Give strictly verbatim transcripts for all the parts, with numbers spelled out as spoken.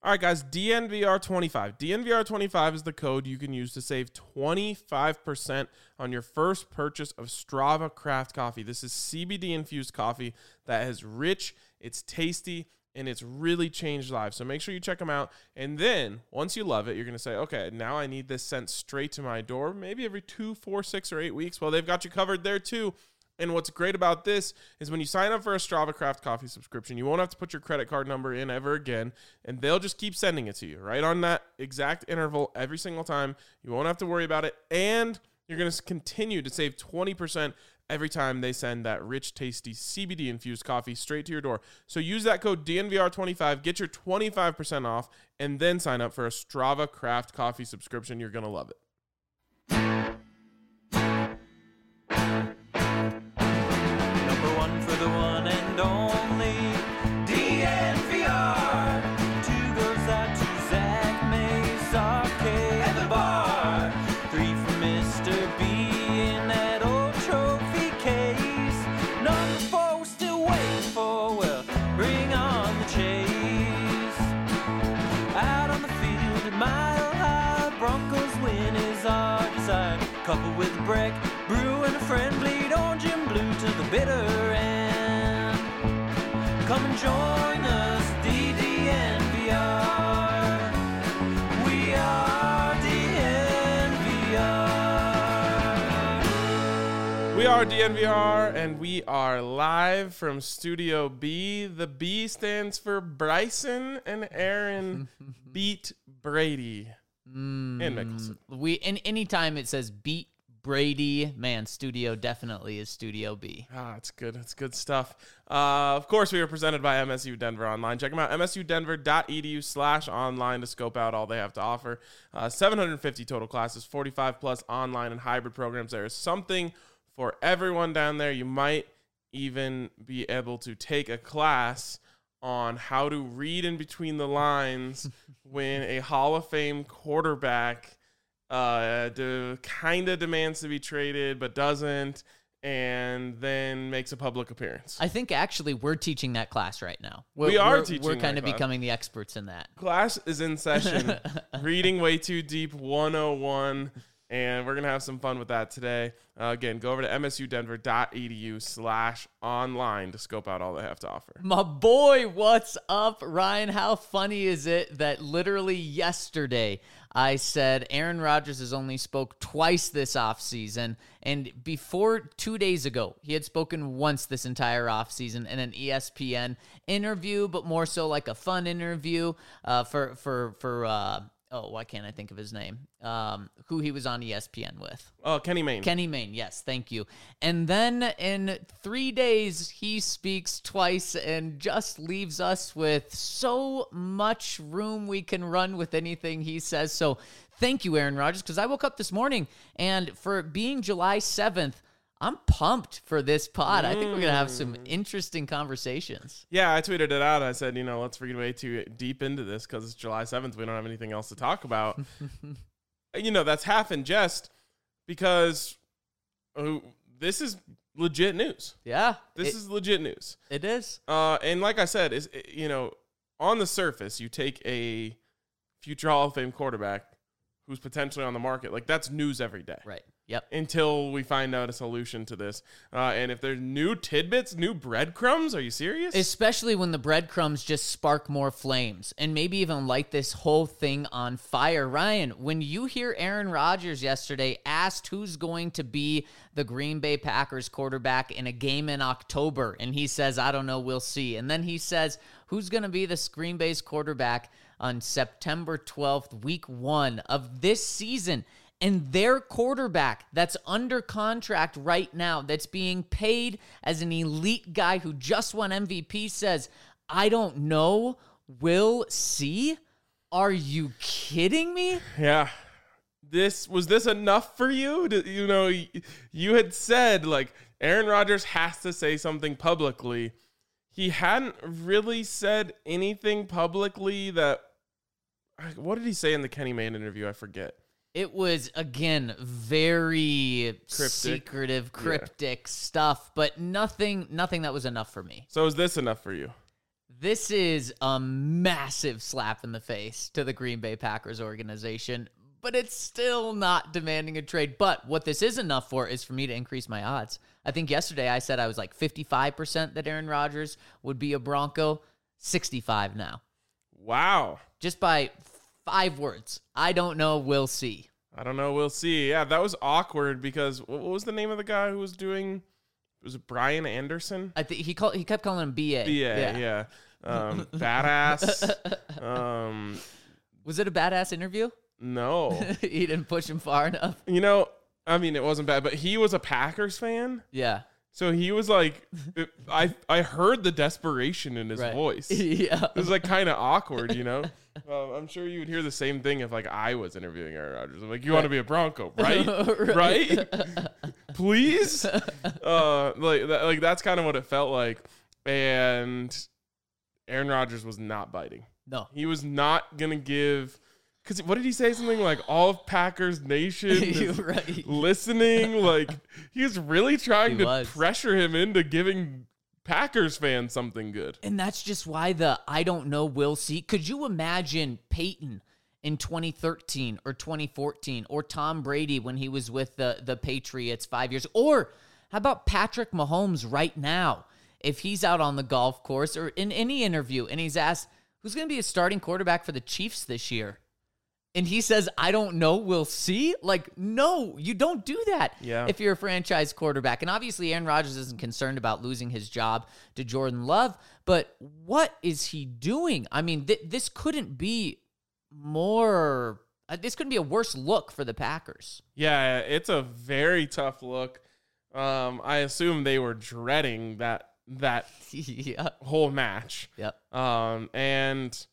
All right, guys, D N V R twenty-five. D N V R twenty-five is the code you can use to save twenty-five percent on your first purchase of Strava Craft Coffee. This is C B D-infused coffee that is rich, it's tasty, and it's really changed lives. So make sure you check them out. And then once you love it, you're going to say, okay, now I need this sent straight to my door, maybe every two, four, six, or eight weeks. Well, they've got you covered there too. And what's great about this is when you sign up for a Strava Craft Coffee subscription, you won't have to put your credit card number in ever again, and they'll just keep sending it to you right on that exact interval every single time. You won't have to worry about it, and you're going to continue to save twenty percent every time they send that rich, tasty C B D-infused coffee straight to your door. So use that code D N V R twenty-five, get your twenty-five percent off, and then sign up for a Strava Craft Coffee subscription. You're going to love it. The one and only D N V R. Two goes out to Zach Mace, Arcade, and the bar. Three for Mister B in that old trophy case. Number four we're still waiting for, well, bring on the chase. Out on the field at Mile High, Broncos win is our desire. Couple with Breck, Brew, and a friend bleed orange and blue to the bitter end. Come and join us, D D N V R. We are D N V R. We are D N V R, and we are live from Studio B. The B stands for Bryson and Aaron beat Brady Mm, and Mickelson. We and anytime it says beat Brady, man, Studio definitely is Studio B. Ah, it's good. It's good stuff. Uh, of course, we are presented by M S U Denver Online. Check them out, msudenver.edu slash online to scope out all they have to offer. Uh, seven hundred fifty total classes, forty-five plus online and hybrid programs. There is something for everyone down there. You might even be able to take a class on how to read in between the lines when a Hall of Fame quarterback uh, de- kind of demands to be traded but doesn't, and then makes a public appearance. I think actually we're teaching that class right now. We're, We are we're, teaching We're that kind of class. becoming the experts in that. Class is in session. Reading Way Too Deep one oh one. And we're going to have some fun with that today. Uh, again, go over to msudenver.edu slash online to scope out all they have to offer. My boy, what's up, Ryan? How funny is it that literally yesterday I said Aaron Rodgers has only spoke twice this offseason, and before two days ago, he had spoken once this entire offseason in an E S P N interview, but more so like a fun interview uh, for, for, for, uh, oh, why can't I think of his name? Um, who he was on E S P N with. Oh, Kenny Mayne. Kenny Mayne, yes, thank you. And then in three days, he speaks twice and just leaves us with so much room we can run with anything he says. So thank you, Aaron Rodgers, because I woke up this morning, and for being July seventh, I'm pumped for this pod. I think we're going to have some interesting conversations. Yeah, I tweeted it out. I said, you know, let's read way too deep into this because it's July seventh. We don't have anything else to talk about. You know, that's half in jest because uh, this is legit news. Yeah. This it, is legit news. It is. Uh, and like I said, is you know, on the surface, you take a future Hall of Fame quarterback who's potentially on the market. Like, that's news every day. Right. Yep. Until we find out a solution to this. Uh, and if there's new tidbits, new breadcrumbs, are you serious? Especially when the breadcrumbs just spark more flames and maybe even light this whole thing on fire. Ryan, when you hear Aaron Rodgers yesterday asked who's going to be the Green Bay Packers quarterback in a game in October, and he says, I don't know, we'll see. And then he says, who's going to be this Green Bay's quarterback on September twelfth, week one of this season? And their quarterback that's under contract right now, that's being paid as an elite guy who just won M V P, says, I don't know, we'll see. Are you kidding me? Yeah. This was this enough for you? To, you know, you had said, like, Aaron Rodgers has to say something publicly. He hadn't really said anything publicly that, what did he say in the Kenny Mayne interview? I forget. It was, again, very Cryptic. secretive, cryptic yeah. stuff, but nothing nothing that was enough for me. So is this enough for you? This is a massive slap in the face to the Green Bay Packers organization, but it's still not demanding a trade. But what this is enough for is for me to increase my odds. I think yesterday I said I was like fifty-five percent that Aaron Rodgers would be a Bronco, sixty-five now. Wow. Just by five words. I don't know. We'll see. I don't know. We'll see. Yeah, that was awkward because what was the name of the guy who was doing? Was it Brian Anderson? I think he called. He kept calling him B A. B A, yeah. yeah. Um, badass. Um, was it a badass interview? No. He didn't push him far enough. You know, I mean, it wasn't bad, but he was a Packers fan. Yeah. So he was like, it, I I heard the desperation in his right. voice. Yeah. It was like kind of awkward, you know? Uh, I'm sure you would hear the same thing if like I was interviewing Aaron Rodgers. I'm like, you right. want to be a Bronco, right? right? right? Please? Uh, like, that, like that's kind of what it felt like. And Aaron Rodgers was not biting. No. He was not going to give... Because what did he say? Something like all of Packers Nation is right. listening. Like he was really trying he to was. pressure him into giving Packers fans something good. And that's just why the I don't know, we'll see. Could you imagine Peyton in twenty thirteen or twenty fourteen or Tom Brady when he was with the, the Patriots five years? Or how about Patrick Mahomes right now? If he's out on the golf course or in any interview and he's asked, who's going to be a starting quarterback for the Chiefs this year? And he says, I don't know, we'll see. Like, no, you don't do that yeah. if you're a franchise quarterback. And obviously, Aaron Rodgers isn't concerned about losing his job to Jordan Love. But what is he doing? I mean, th- this couldn't be more, uh, this couldn't be a worse look for the Packers. Yeah, it's a very tough look. Um, I assume they were dreading that that yeah. whole match. Yep. Um, and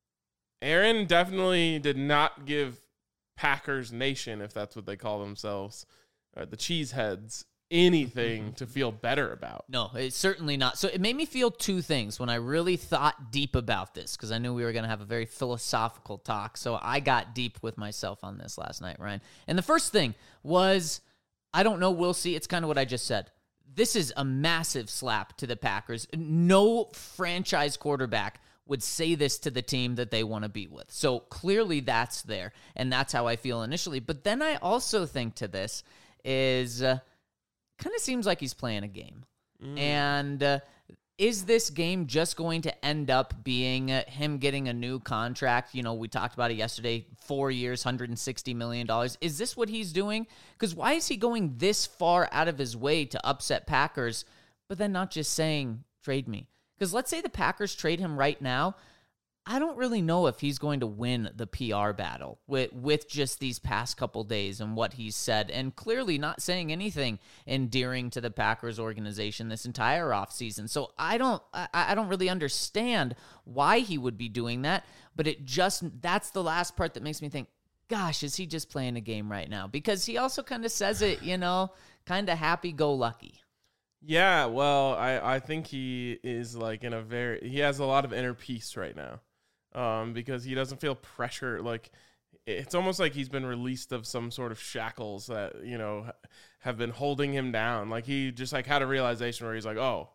Aaron definitely did not give Packers Nation, if that's what they call themselves, uh, the Cheeseheads, anything to feel better about. No, it's certainly not. So it made me feel two things when I really thought deep about this, because I knew we were going to have a very philosophical talk. So I got deep with myself on this last night, Ryan. And the first thing was, I don't know, we'll see. It's kind of what I just said. This is a massive slap to the Packers. No franchise quarterback would say this to the team that they want to be with. So clearly that's there, and that's how I feel initially. But then I also think to this is uh, kind of seems like he's playing a game. Mm. And uh, is this game just going to end up being uh, him getting a new contract? You know, we talked about it yesterday, four years, one hundred sixty million dollars. Is this what he's doing? Because why is he going this far out of his way to upset Packers, but then not just saying, trade me? Because let's say the Packers trade him right now. I don't really know if he's going to win the P R battle with, with just these past couple days and what he's said, and clearly not saying anything endearing to the Packers organization this entire offseason. So I don't I, I don't really understand why he would be doing that, but it just that's the last part that makes me think, gosh, is he just playing a game right now? Because he also kind of says it, you know, kind of happy-go-lucky. Yeah, well, I, I think he is like in a very, he has a lot of inner peace right now um, because he doesn't feel pressure. Like it's almost like he's been released of some sort of shackles that, you know, have been holding him down. Like he just like had a realization where he's like, oh,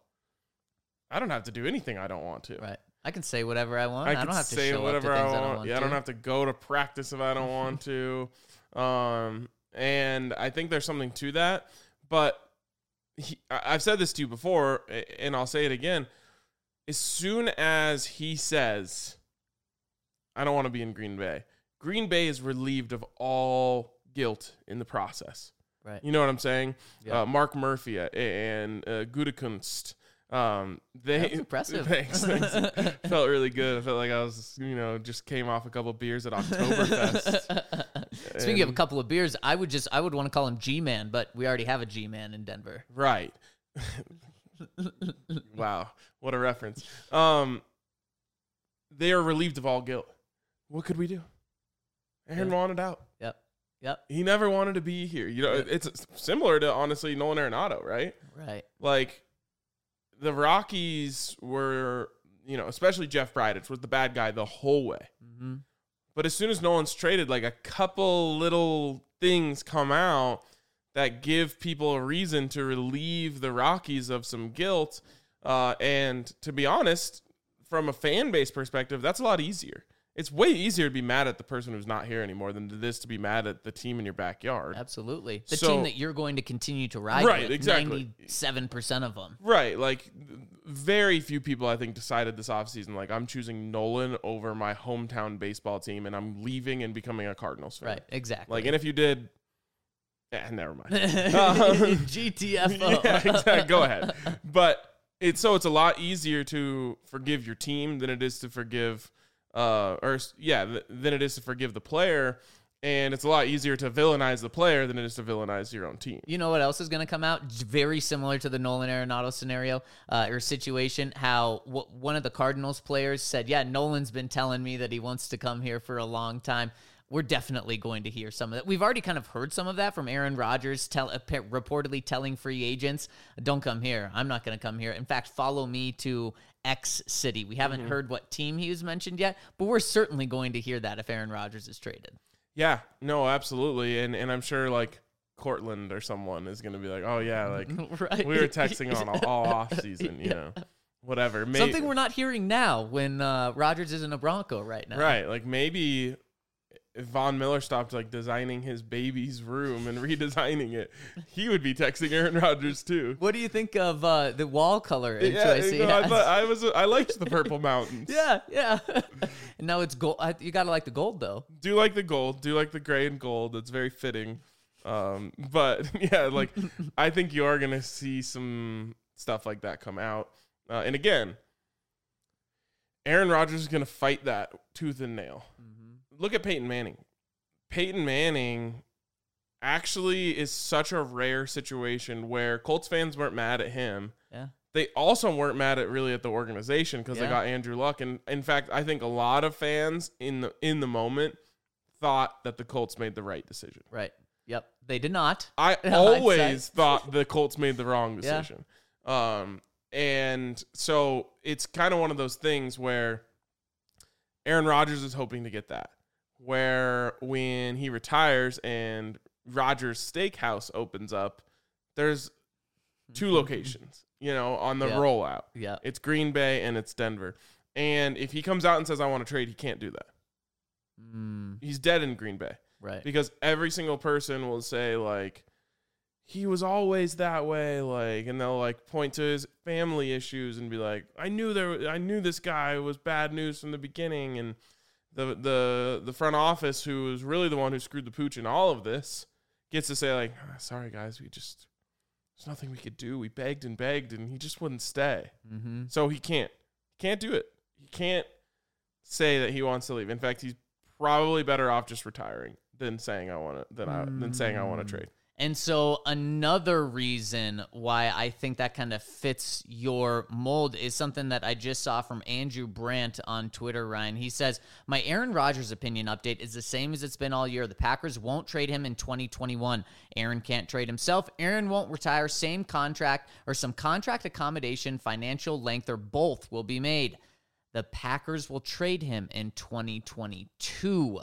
I don't have to do anything I don't want to. Right. I can say whatever I want. I, I can don't have to say show whatever up to things I I want. don't want yeah, to. I don't have to go to practice if I don't want to. Um, and I think there's something to that. But He, I've said this to you before, and I'll say it again. As soon as he says, I don't want to be in Green Bay, Green Bay is relieved of all guilt in the process. Right. You know what I'm saying? Yeah. Uh, Mark Murphy and uh, Gutekunst. Um, they, That's impressive. Thanks, thanks. Felt really good. I felt like I was, you know, just came off a couple of beers at Oktoberfest. Speaking and, of a couple of beers, I would just I would want to call him G-Man, but we already have a G-Man in Denver. Right. Wow, what a reference. Um, they are relieved of all guilt. What could we do? Aaron yeah. wanted out. Yep. Yep. He never wanted to be here. You know, yep. it's similar to honestly Nolan Arenado, right? Right. Like the Rockies were, you know, especially Jeff Bridich was the bad guy the whole way. Mm-hmm. But as soon as Nolan's traded, like a couple little things come out that give people a reason to relieve the Rockies of some guilt. Uh, and to be honest, from a fan base perspective, that's a lot easier. It's way easier to be mad at the person who's not here anymore than it is to be mad at the team in your backyard. Absolutely. The So- team that you're going to continue to ride Right, with, exactly. ninety-seven percent of them. Right. Like, very few people, I think, decided this offseason, like, I'm choosing Nolan over my hometown baseball team, and I'm leaving and becoming a Cardinals fan. Right, exactly. Like, and if you did, eh, never mind. Um, G T F O. yeah, exactly. Go ahead. But it's so it's a lot easier to forgive your team than it is to forgive, uh, or yeah, th- than it is to forgive the player, and it's a lot easier to villainize the player than it is to villainize your own team. You know what else is going to come out? J- Very similar to the Nolan Arenado scenario uh, or situation. How w- one of the Cardinals players said, "Yeah, Nolan's been telling me that he wants to come here for a long time." We're definitely going to hear some of that. We've already kind of heard some of that from Aaron Rodgers, tell, uh, pe- reportedly telling free agents, "Don't come here. I'm not going to come here. In fact, follow me to X city." We haven't heard what team he was mentioned yet, but we're certainly going to hear that if Aaron Rodgers is traded. Yeah, no, absolutely, and and I'm sure like Cortland or someone is going to be like, oh yeah, like Right. we were texting on all, all off season, you Yeah. know, whatever. May- Something we're not hearing now when uh, Rodgers isn't a Bronco right now. right, like maybe if Von Miller stopped like designing his baby's room and redesigning it, he would be texting Aaron Rodgers too. What do you think of uh, the wall color in Yeah, choice? you know, I, thought, I was I liked the purple mountains. yeah, yeah. And now it's gold. I, you gotta like the gold though. Do like the gold, do like the gray and gold. It's very fitting. Um, but yeah, like I think you are gonna see some stuff like that come out. Uh, and again, Aaron Rodgers is gonna fight that tooth and nail. Look at Peyton Manning. Peyton Manning actually is such a rare situation where Colts fans weren't mad at him. Yeah. They also weren't mad at really at the organization because Yeah. they got Andrew Luck. And in fact, I think a lot of fans in the in the moment thought that the Colts made the right decision. Right. Yep. They did not. I In always hindsight. thought the Colts made the wrong Yeah. decision. Um, and so it's kind of one of those things where Aaron Rodgers is hoping to get that. Where when he retires and Rodgers Steakhouse opens up, there's two locations, you know, on the Yeah. rollout. Yeah. It's Green Bay and it's Denver. And if he comes out and says, I want to trade, he can't do that. Mm, He's dead in Green Bay. right. Because every single person will say, like, he was always that way, like, and they'll like point to his family issues and be like, I knew there I knew this guy was bad news from the beginning, and the the the front office, who was really the one who screwed the pooch in all of this, gets to say like, "Ah, sorry guys, we just there's nothing we could do. We begged and begged and he just wouldn't stay." Mm-hmm. So he can't. He can't do it. He can't say that he wants to leave. In fact, he's probably better off just retiring than saying I want to than I than saying I want to trade. And so another reason why I think that kind of fits your mold is something that I just saw from Andrew Brandt on Twitter, Ryan. He says, my Aaron Rodgers opinion update is the same as it's been all year. The Packers won't trade him in twenty twenty-one. Aaron can't trade himself. Aaron won't retire. Same contract or some contract accommodation, financial length, or both will be made. The Packers will trade him in twenty twenty-two.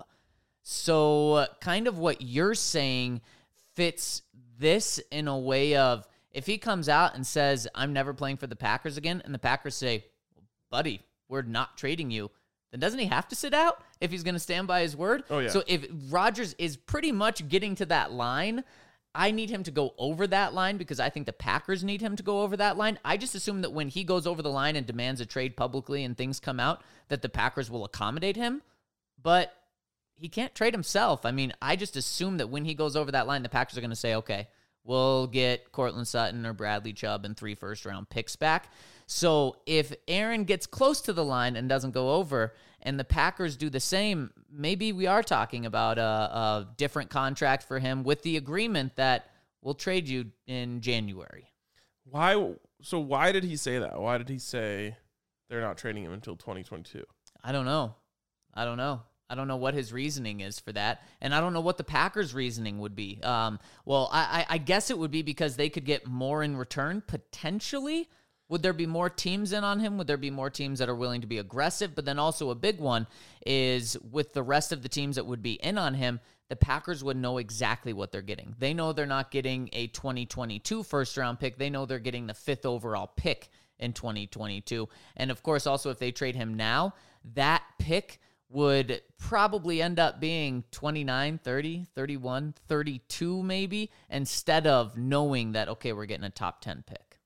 So kind of what you're saying fits this in a way of, if he comes out and says, I'm never playing for the Packers again, and the Packers say, buddy, we're not trading you, then doesn't he have to sit out if he's going to stand by his word? Oh, yeah. So if Rodgers is pretty much getting to that line, I need him to go over that line because I think the Packers need him to go over that line. I just assume that when he goes over the line and demands a trade publicly and things come out, that the Packers will accommodate him. But he can't trade himself. I mean, I just assume that when he goes over that line, the Packers are going to say, okay, we'll get Cortland Sutton or Bradley Chubb and three first-round picks back. So if Aaron gets close to the line and doesn't go over, and the Packers do the same, maybe we are talking about a, a different contract for him with the agreement that we'll trade you in January. Why? So why did he say that? Why did he say they're not trading him until twenty twenty-two? I don't know. I don't know. I don't know what his reasoning is for that, and I don't know what the Packers' reasoning would be. Um, well, I, I guess it would be because they could get more in return, potentially. Would there be more teams in on him? Would there be more teams that are willing to be aggressive? But then also a big one is with the rest of the teams that would be in on him, the Packers would know exactly what they're getting. They know they're not getting a twenty twenty-two first-round pick. They know they're getting the fifth overall pick in twenty twenty-two. And of course, also if they trade him now, that pick would probably end up being twenty-nine, thirty, thirty-one, thirty-two maybe, instead of knowing that, okay, we're getting a top ten pick.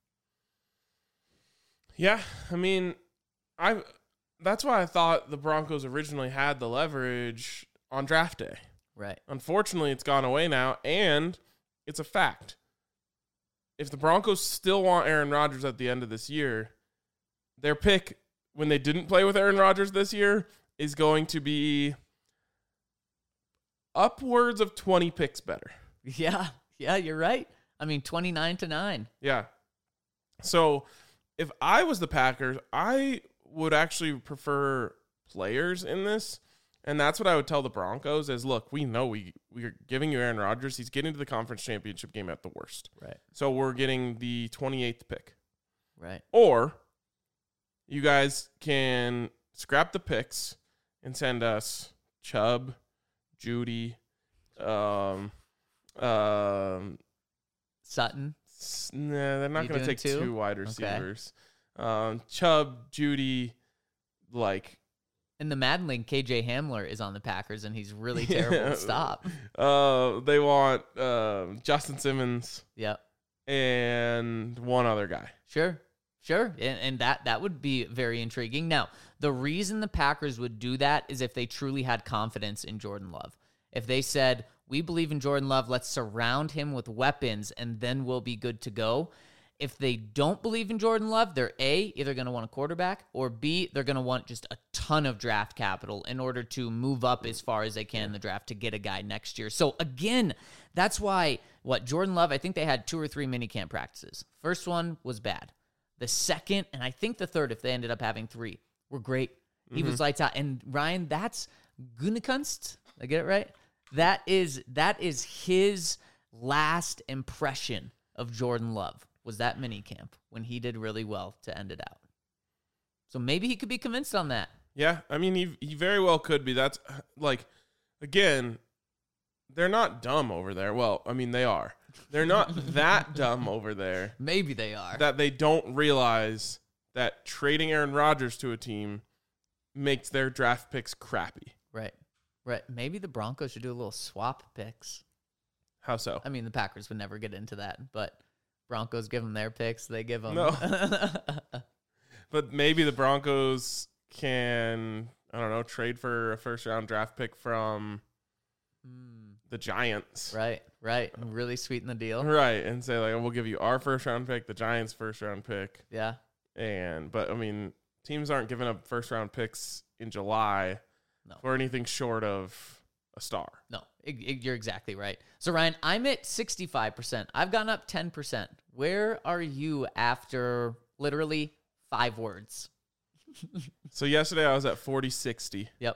Yeah, I mean, I that's why I thought the Broncos originally had the leverage on draft day. Right. Unfortunately, it's gone away now, and it's a fact. If the Broncos still want Aaron Rodgers at the end of this year, their pick, when they didn't play with Aaron Rodgers this year, is going to be upwards of twenty picks better. Yeah, yeah, you're right. I mean, twenty-nine to nine. Yeah. So if I was the Packers, I would actually prefer players in this. And that's what I would tell the Broncos is, look, we know we, we're giving you Aaron Rodgers. He's getting to the conference championship game at the worst. Right. So we're getting the twenty-eighth pick. Right. Or you guys can scrap the picks and send us Chubb, Judy, um, um, Sutton. s- nah, they're not You going to doing take two? two wide Okay. receivers. Um, Chubb, Judy, like, In the Madden League, K J Hamler is on the Packers, and he's really terrible Yeah. to stop. uh, they want um Justin Simmons Yep. and one other guy. Sure. Sure. And, and that, that would be very intriguing. Now, the reason the Packers would do that is if they truly had confidence in Jordan Love. If they said, we believe in Jordan Love, let's surround him with weapons, and then we'll be good to go. If they don't believe in Jordan Love, they're A, either going to want a quarterback, or B, they're going to want just a ton of draft capital in order to move up as far as they can in the draft to get a guy next year. So again, that's why, what, Jordan Love, I think they had two or three minicamp practices. First one was bad. The second, and I think the third, if they ended up having three, were great. He was lights out. And Ryan, that's Gutekunst. I get it right? That is that is his last impression of Jordan Love, was that minicamp when he did really well to end it out. So maybe he could be convinced on that. Yeah, I mean, he he very well could be. That's, like, again, they're not dumb over there. Well, I mean, they are. They're not that dumb over there Maybe they are. that they don't realize that trading Aaron Rodgers to a team makes their draft picks crappy. Right. Right. Maybe the Broncos should do a little swap picks. How so? I mean, the Packers would never get into that, but Broncos give them their picks. They give them. No. But maybe the Broncos can, I don't know, trade for a first round draft pick from the Giants. Right. Right. And really sweeten the deal. Right. And say, like, we'll give you our first round pick, the Giants' first round pick. Yeah. And, but I mean, teams aren't giving up first round picks in July No. for anything short of a star. No, it, it- you're exactly right. So, Ryan, I'm at sixty-five percent. I've gone up ten percent. Where are you after literally five words? So yesterday I was at forty sixty. Yep.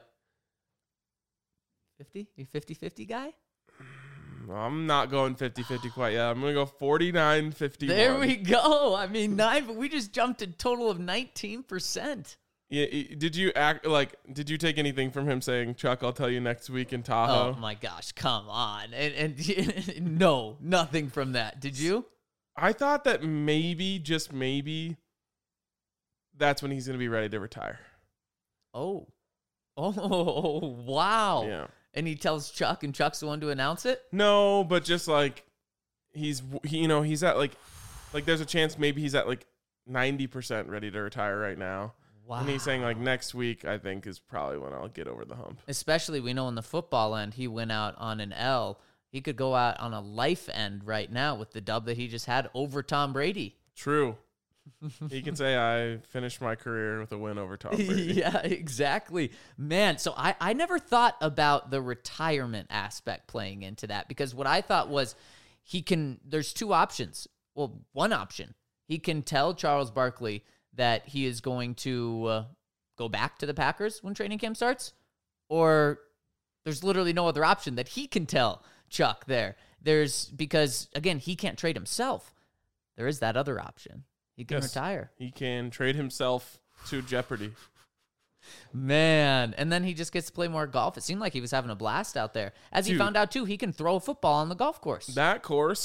fifty? You fifty-fifty guy? I'm not going fifty-fifty quite yet. I'm going to go forty-nine fifty-one. There we go. I mean, nine, but we just jumped a total of nineteen percent. Yeah, i- did you act like? Did you take anything from him saying, "Chuck, I'll tell you next week in Tahoe"? Oh, my gosh. Come on. And, and no, nothing from that. Did you? I thought that maybe, just maybe, that's when he's going to be ready to retire. Oh. Oh, wow. Yeah. And he tells Chuck, and Chuck's the one to announce it? No, but just like he's, he, you know, he's at like, like there's a chance maybe he's at like ninety percent ready to retire right now. Wow. And he's saying like next week, I think is probably when I'll get over the hump. Especially, we know on the football end, he went out on an L. He could go out on a life end right now with the dub that he just had over Tom Brady. True. He can say I finished my career with a win over Tom Brady. Yeah, exactly. Man, so I, I never thought about the retirement aspect playing into that, because what I thought was he can, there's two options. Well, one option, he can tell Charles Barkley that he is going to uh, go back to the Packers when training camp starts, or there's literally no other option that he can tell Chuck there. There's, because again, he can't trade himself. There is that other option. He can Yes. retire. He can trade himself to Jeopardy. Man, and then he just gets to play more golf. It seemed like he was having a blast out there. As he Dude. found out, too, he can throw a football on the golf course. That course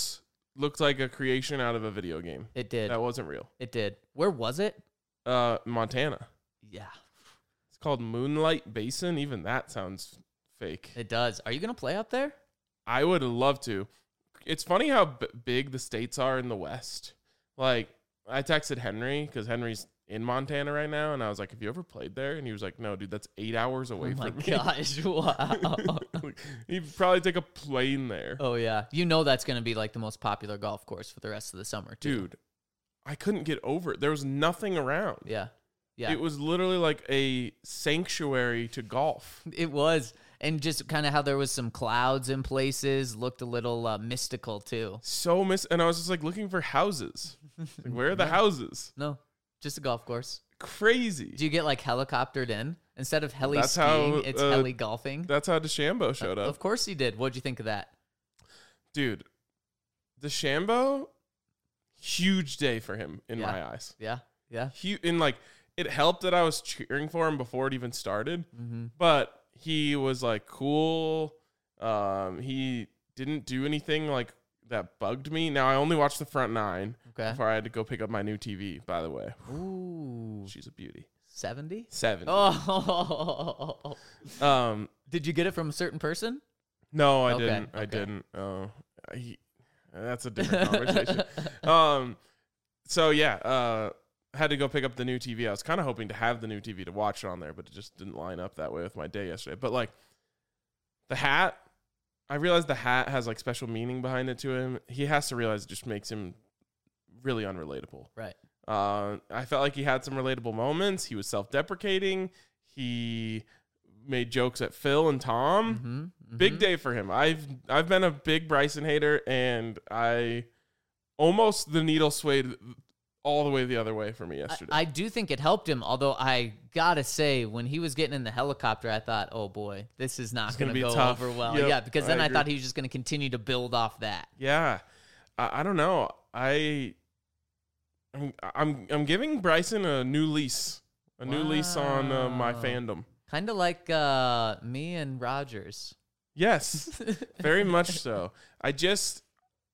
looked like a creation out of a video game. It did. That wasn't real. It did. Where was it? Uh, Montana. Yeah, It's called Moonlight Basin. Even that sounds fake. it does. Are you going to play up there? I would love to. It's funny how b- big the states are in the West. Like, I texted Henry because Henry's in Montana right now, and I was like, have you ever played there? And he was like, no, dude, that's eight hours away Oh my from me. gosh, wow. He'd probably take a plane there. Oh, yeah. You know that's going to be like the most popular golf course for the rest of the summer, too. Dude, I couldn't get over it. There was nothing around. Yeah. Yeah. It was literally like a sanctuary to golf. It was. And just kind of how there was some clouds in places, looked a little uh, mystical, too. So miss, and I was just like looking for houses. Like, where are the houses? No, just a golf course. Crazy. Do you get like helicoptered in? Instead of heli That's skiing, how, it's uh, heli golfing. That's how DeChambeau showed up. Of course he did. What'd you think of that? Dude, DeChambeau, huge day for him in Yeah. my eyes. Yeah. Yeah. He, in like, it helped that I was cheering for him before it even started, Mm-hmm. but he was like cool. Um, he didn't do anything like that bugged me. Now I only watched the front nine Okay. before I had to go pick up my new T V. By the way, Ooh. she's a beauty. seventy? Seven. Oh. Um, Did you get it from a certain person? no, I Okay, didn't. I okay. didn't. Oh, I, that's a different conversation. Um, so yeah, uh, had to go pick up the new T V. I was kind of hoping to have the new T V to watch it on there, but it just didn't line up that way with my day yesterday. But like the hat, I realized the hat has like special meaning behind it to him. He has to realize it just makes him really unrelatable. Right. Uh, I felt like he had some relatable moments. He was self-deprecating. He made jokes at Phil and Tom. Mm-hmm. Big day for him. I've I've been a big Bryson hater, and I almost the needle swayed all the way the other way for me yesterday. I, I do think it helped him, although I gotta say, when he was getting in the helicopter, I thought, oh boy, this is not gonna gonna, be go tough. over well. Yep, yeah, because then I I, agree. thought he was just gonna continue to build off that. yeah, I, I don't know. I I'm, I'm I'm giving Bryson a new lease, a new lease on uh, my Wow. fandom. Kind of like uh, me and Rogers. Yes, very much so. I just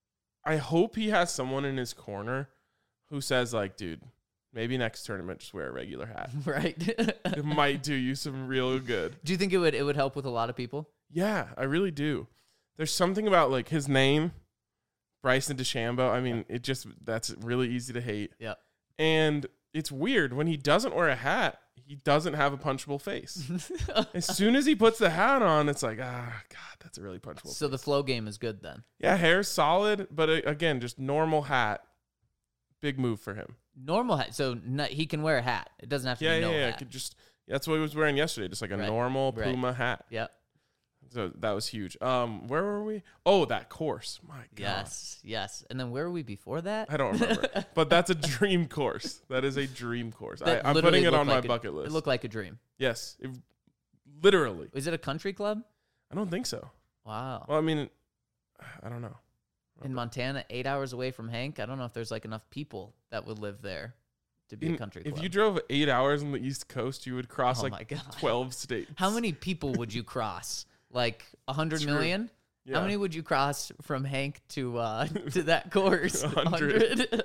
I hope he has someone in his corner who says like, dude, maybe next tournament just wear a regular hat. Right. It might do you some real good. Do you think it would it would help with a lot of people? Yeah, I really do. There's something about like his name, Bryson DeChambeau. I mean, it just that's really easy to hate. Yeah. And it's weird when he doesn't wear a hat, he doesn't have a punchable face. As soon as he puts the hat on, it's like, ah, God, that's a really punchable. So the flow game is good then. Yeah, hair's solid, but uh, again, just normal hat. Big move for him. Normal hat. So no, he can wear a hat. It doesn't have to Yeah, be yeah, no yeah. hat. Could just that's what he was wearing yesterday, just like a Right, normal right. Puma hat. Yep. So that was huge. Um, where were we? Oh, that course. My God. Yes. Yes. And then where were we before that? I don't remember, but that's a dream course. That is a dream course. I, That I'm literally putting it looked on my like a- bucket list. It looked like a dream. Yes, it, literally. Is it a country club? I don't think so. Wow. Well, I mean, I don't know. In Montana, eight hours away from Hank. I don't know if there's like enough people that would live there to be In- a country if club. you drove eight hours on the East Coast, you would cross Oh my like God. twelve states. How many people would you cross? Like a hundred True. million? Yeah. How many would you cross from Hank to uh to that course? A hundred.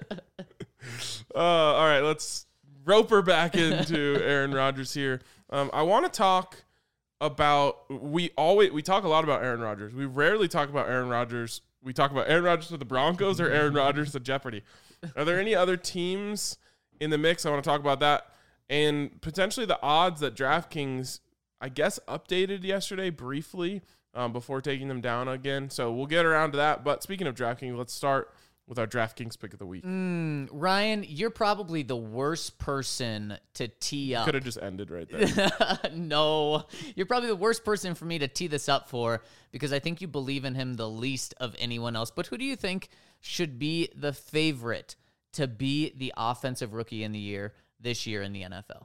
Uh, all right, let's rope her back into Aaron Rodgers here. Um, I want to talk about we always we talk a lot about Aaron Rodgers. We rarely talk about Aaron Rodgers. We talk about Aaron Rodgers to the Broncos or Aaron Rodgers to Jeopardy. Are there any other teams in the mix? I want to talk about that and potentially the odds that DraftKings, I guess, updated yesterday briefly um, before taking them down again. So we'll get around to that. But speaking of DraftKings, let's start with our DraftKings pick of the week. Mm, Ryan, you're probably the worst person to tee up. Could have just ended right there. No, you're probably the worst person for me to tee this up for because I think you believe in him the least of anyone else. But who do you think should be the favorite to be the offensive rookie in the year this year in the N F L?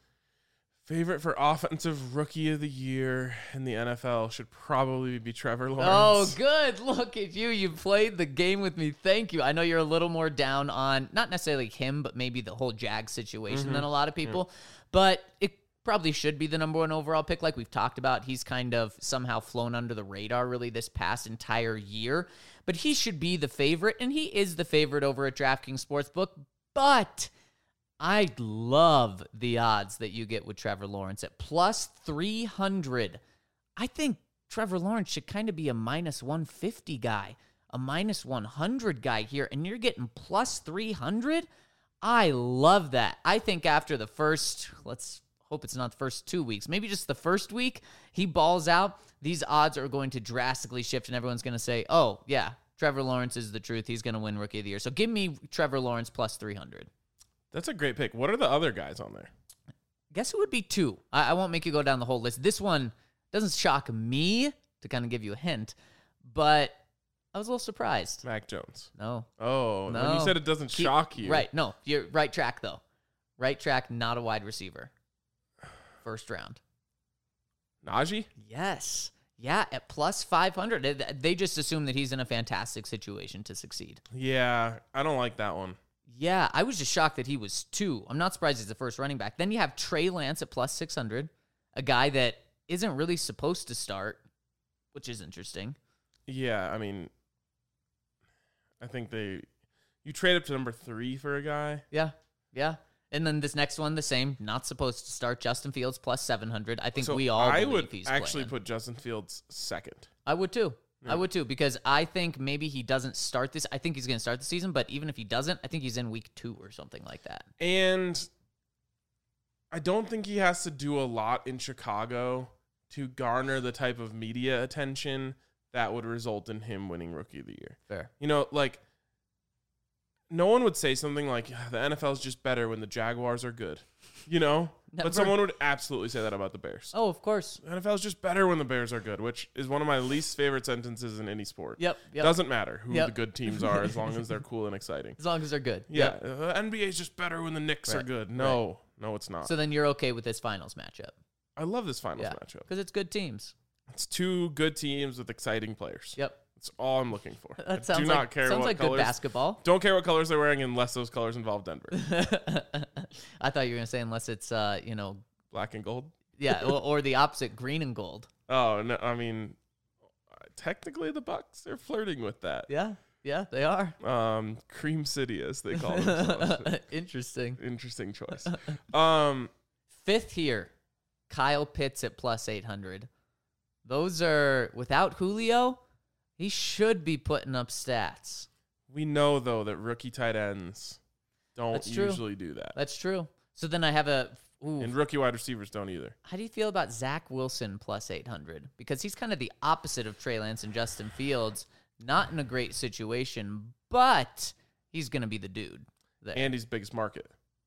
Favorite for offensive rookie of the year in the N F L should probably be Trevor Lawrence. Oh, good. Look at you. You played the game with me. Thank you. I know you're a little more down on not necessarily him, but maybe the whole Jag situation than a lot of people. But it probably should be the number one overall pick, like we've talked about. He's kind of somehow flown under the radar really this past entire year. But he should be the favorite, and he is the favorite over at DraftKings Sportsbook. But I love the odds that you get with Trevor Lawrence at plus three hundred. I think Trevor Lawrence should kind of be a minus one fifty guy, a minus one hundred guy here, and you're getting plus three hundred? I love that. I think after the first, let's hope it's not the first two weeks, maybe just the first week, he balls out, these odds are going to drastically shift, and everyone's going to say, oh, yeah, Trevor Lawrence is the truth. He's going to win Rookie of the Year. So give me Trevor Lawrence plus three hundred. That's a great pick. What are the other guys on there? Guess it would be two. I, I won't make you go down the whole list. This one doesn't shock me, to kind of give you a hint, but I was a little surprised. Mac Jones. No. Oh, No. when you said it doesn't Keep- shock you. Right. No, you're right track, though. Right track, not a wide receiver. First round. Najee? Yes. Yeah, at plus five hundred. They- They just assume that he's in a fantastic situation to succeed. Yeah, I don't like that one. Yeah, I was just shocked that he was two. I'm not surprised he's the first running back. Then you have Trey Lance at plus six hundred, a guy that isn't really supposed to start, which is interesting. Yeah, I mean, I think they, you trade up to number three for a guy. Yeah, yeah. And then this next one, the same, not supposed to start. Justin Fields plus seven hundred. I think So we all I believe would he's actually playing. put Justin Fields second. I would too. Yeah. I would too, because I think maybe he doesn't start this. I think he's going to start the season, but even if he doesn't, I think he's in week two or something like that. And I don't think he has to do a lot in Chicago to garner the type of media attention that would result in him winning Rookie of the Year. Fair. You know, like, no one would say something like, "Yeah, the N F L is just better when the Jaguars are good," you know? Never. But someone would absolutely say that about the Bears. Oh, of course. The N F L is just better when the Bears are good, which is one of my least favorite sentences in any sport. Yep. Yep. Doesn't matter who Yep. the good teams are as long as they're cool and exciting. As long as they're good. Yeah, Yep. uh, N B A is just better when the Knicks are Right. good. No, no, it's not. So then you're okay with this finals matchup. I love this finals Yeah. matchup. Because it's good teams. It's two good teams with exciting players. Yep. That's all I'm looking for. I That sounds do like, not care sounds what like colors. good basketball. Don't care what colors they're wearing unless those colors involve Denver. I thought you were going to say unless it's, uh, you know, Black and gold. yeah, or, or the opposite, green and gold. Oh no, I mean, technically the Bucks are flirting with that. Yeah. Yeah, they are. Um, Cream City, as they call themselves. Interesting. Interesting choice. Um, Fifth here, Kyle Pitts at plus eight hundred. Those are, without Julio, he should be putting up stats. we know though that rookie tight ends don't That's true. usually do that, That's true. So then I have a, ooh, and rookie wide receivers don't either. how do you feel about Zach Wilson plus eight hundred? Because he's kind of the opposite of Trey Lance and Justin Fields. Not in a great situation, but he's going to be the dude there. Andy's biggest market.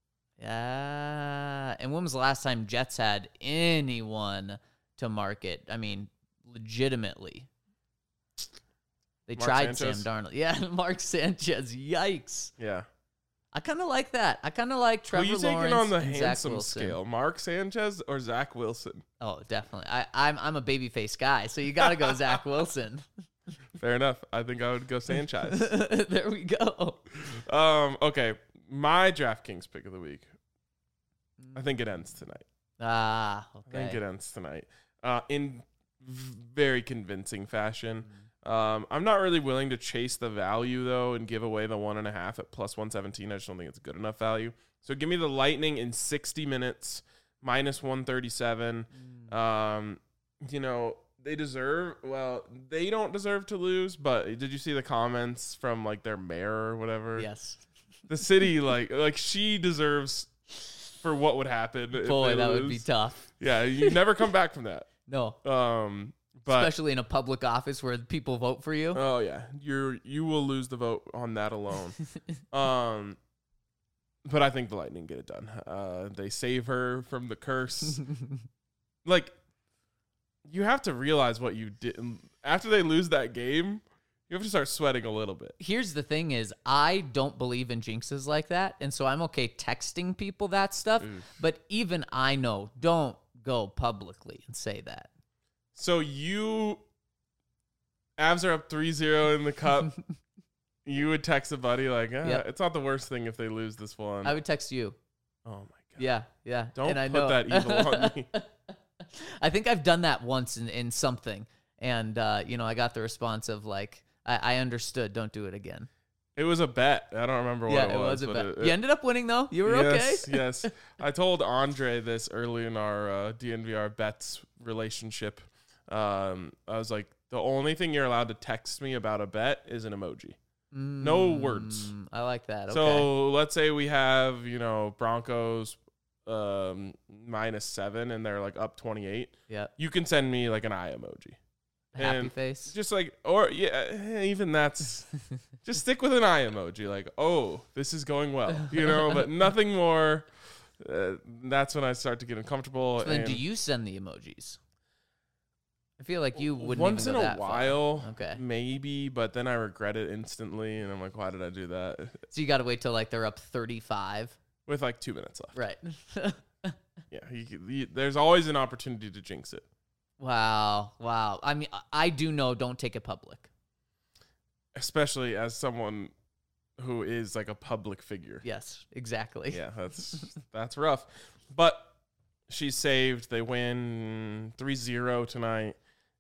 Yeah. And when was the last time Jets had anyone to market? I mean, legitimately. They Mark tried Sanchez? Sam Darnold. Yeah, Mark Sanchez. Yikes. Yeah. I kind of like that. I kind of like Trevor Who you taking Lawrence on the and Zach handsome Wilson. scale? Mark Sanchez or Zach Wilson? Oh, definitely. I, I'm I'm a babyface guy, so you got to go Zach Wilson. Fair enough. I think I would go Sanchez. There we go. um. Okay. My DraftKings pick of the week. I think it ends tonight. Ah, I think okay. it ends tonight. Uh, in v- very convincing fashion. Mm-hmm. Um, I'm not really willing to chase the value though and give away the one and a half at plus one seventeen. I just don't think it's good enough value. So give me the Lightning in sixty minutes minus one thirty-seven. Mm. Um, you know, they deserve, well, they don't deserve to lose, but did you see the comments from like their mayor or whatever? Yes. The city, like, like she deserves for what would happen. if Boy, they that would be lose. tough. Yeah, you never come back from that. No. Um, but Especially in a public office where people vote for you. oh yeah, you're you will lose the vote on that alone. um, but I think the Lightning get it done. Uh, they save her from the curse. Like, you have to realize what you did after they lose that game. You have to start sweating a little bit. Here's the thing is, I don't believe in jinxes like that, and so I'm okay texting people that stuff, but even I know, don't go publicly and say that. So you, Avs are up three zero in the cup. You would text a buddy like, ah, Yep. it's not the worst thing if they lose this one. I would text you. oh my god. Yeah, yeah. Don't and I put know. that evil on me. I think I've done that once in, in something. And, uh, you know, I got the response of like, I, I understood. Don't do it again. It was a bet. I don't remember what yeah, it it was. was a but bet. It, You ended up winning, though. You were yes, okay. yes. I told Andre this early in our uh, D N V R bets relationship. Um, I was like, the only thing you're allowed to text me about a bet is an emoji. Mm, No words. I like that. Okay. So let's say we have, you know, Broncos um, minus seven and they're like up twenty-eight. yeah. You can send me like an eye emoji. Happy and face. Just like, or yeah, even that's, just stick with an eye emoji. Like, oh, this is going well, you know, but nothing more. Uh, that's when I start to get uncomfortable. So then and do you send the emojis? I feel like you wouldn't once even in go a that far. while, Okay. maybe, but then I regret it instantly. And I'm like, why did I do that? So you got to wait till like they're up thirty-five. With like two minutes left. Right. Yeah. You, you, there's always an opportunity to jinx it. Wow. Wow. I mean, I- I do know don't take it public. Especially as someone who is like a public figure. Yes, exactly. Yeah, that's that's rough. But she's saved. They win three zero tonight,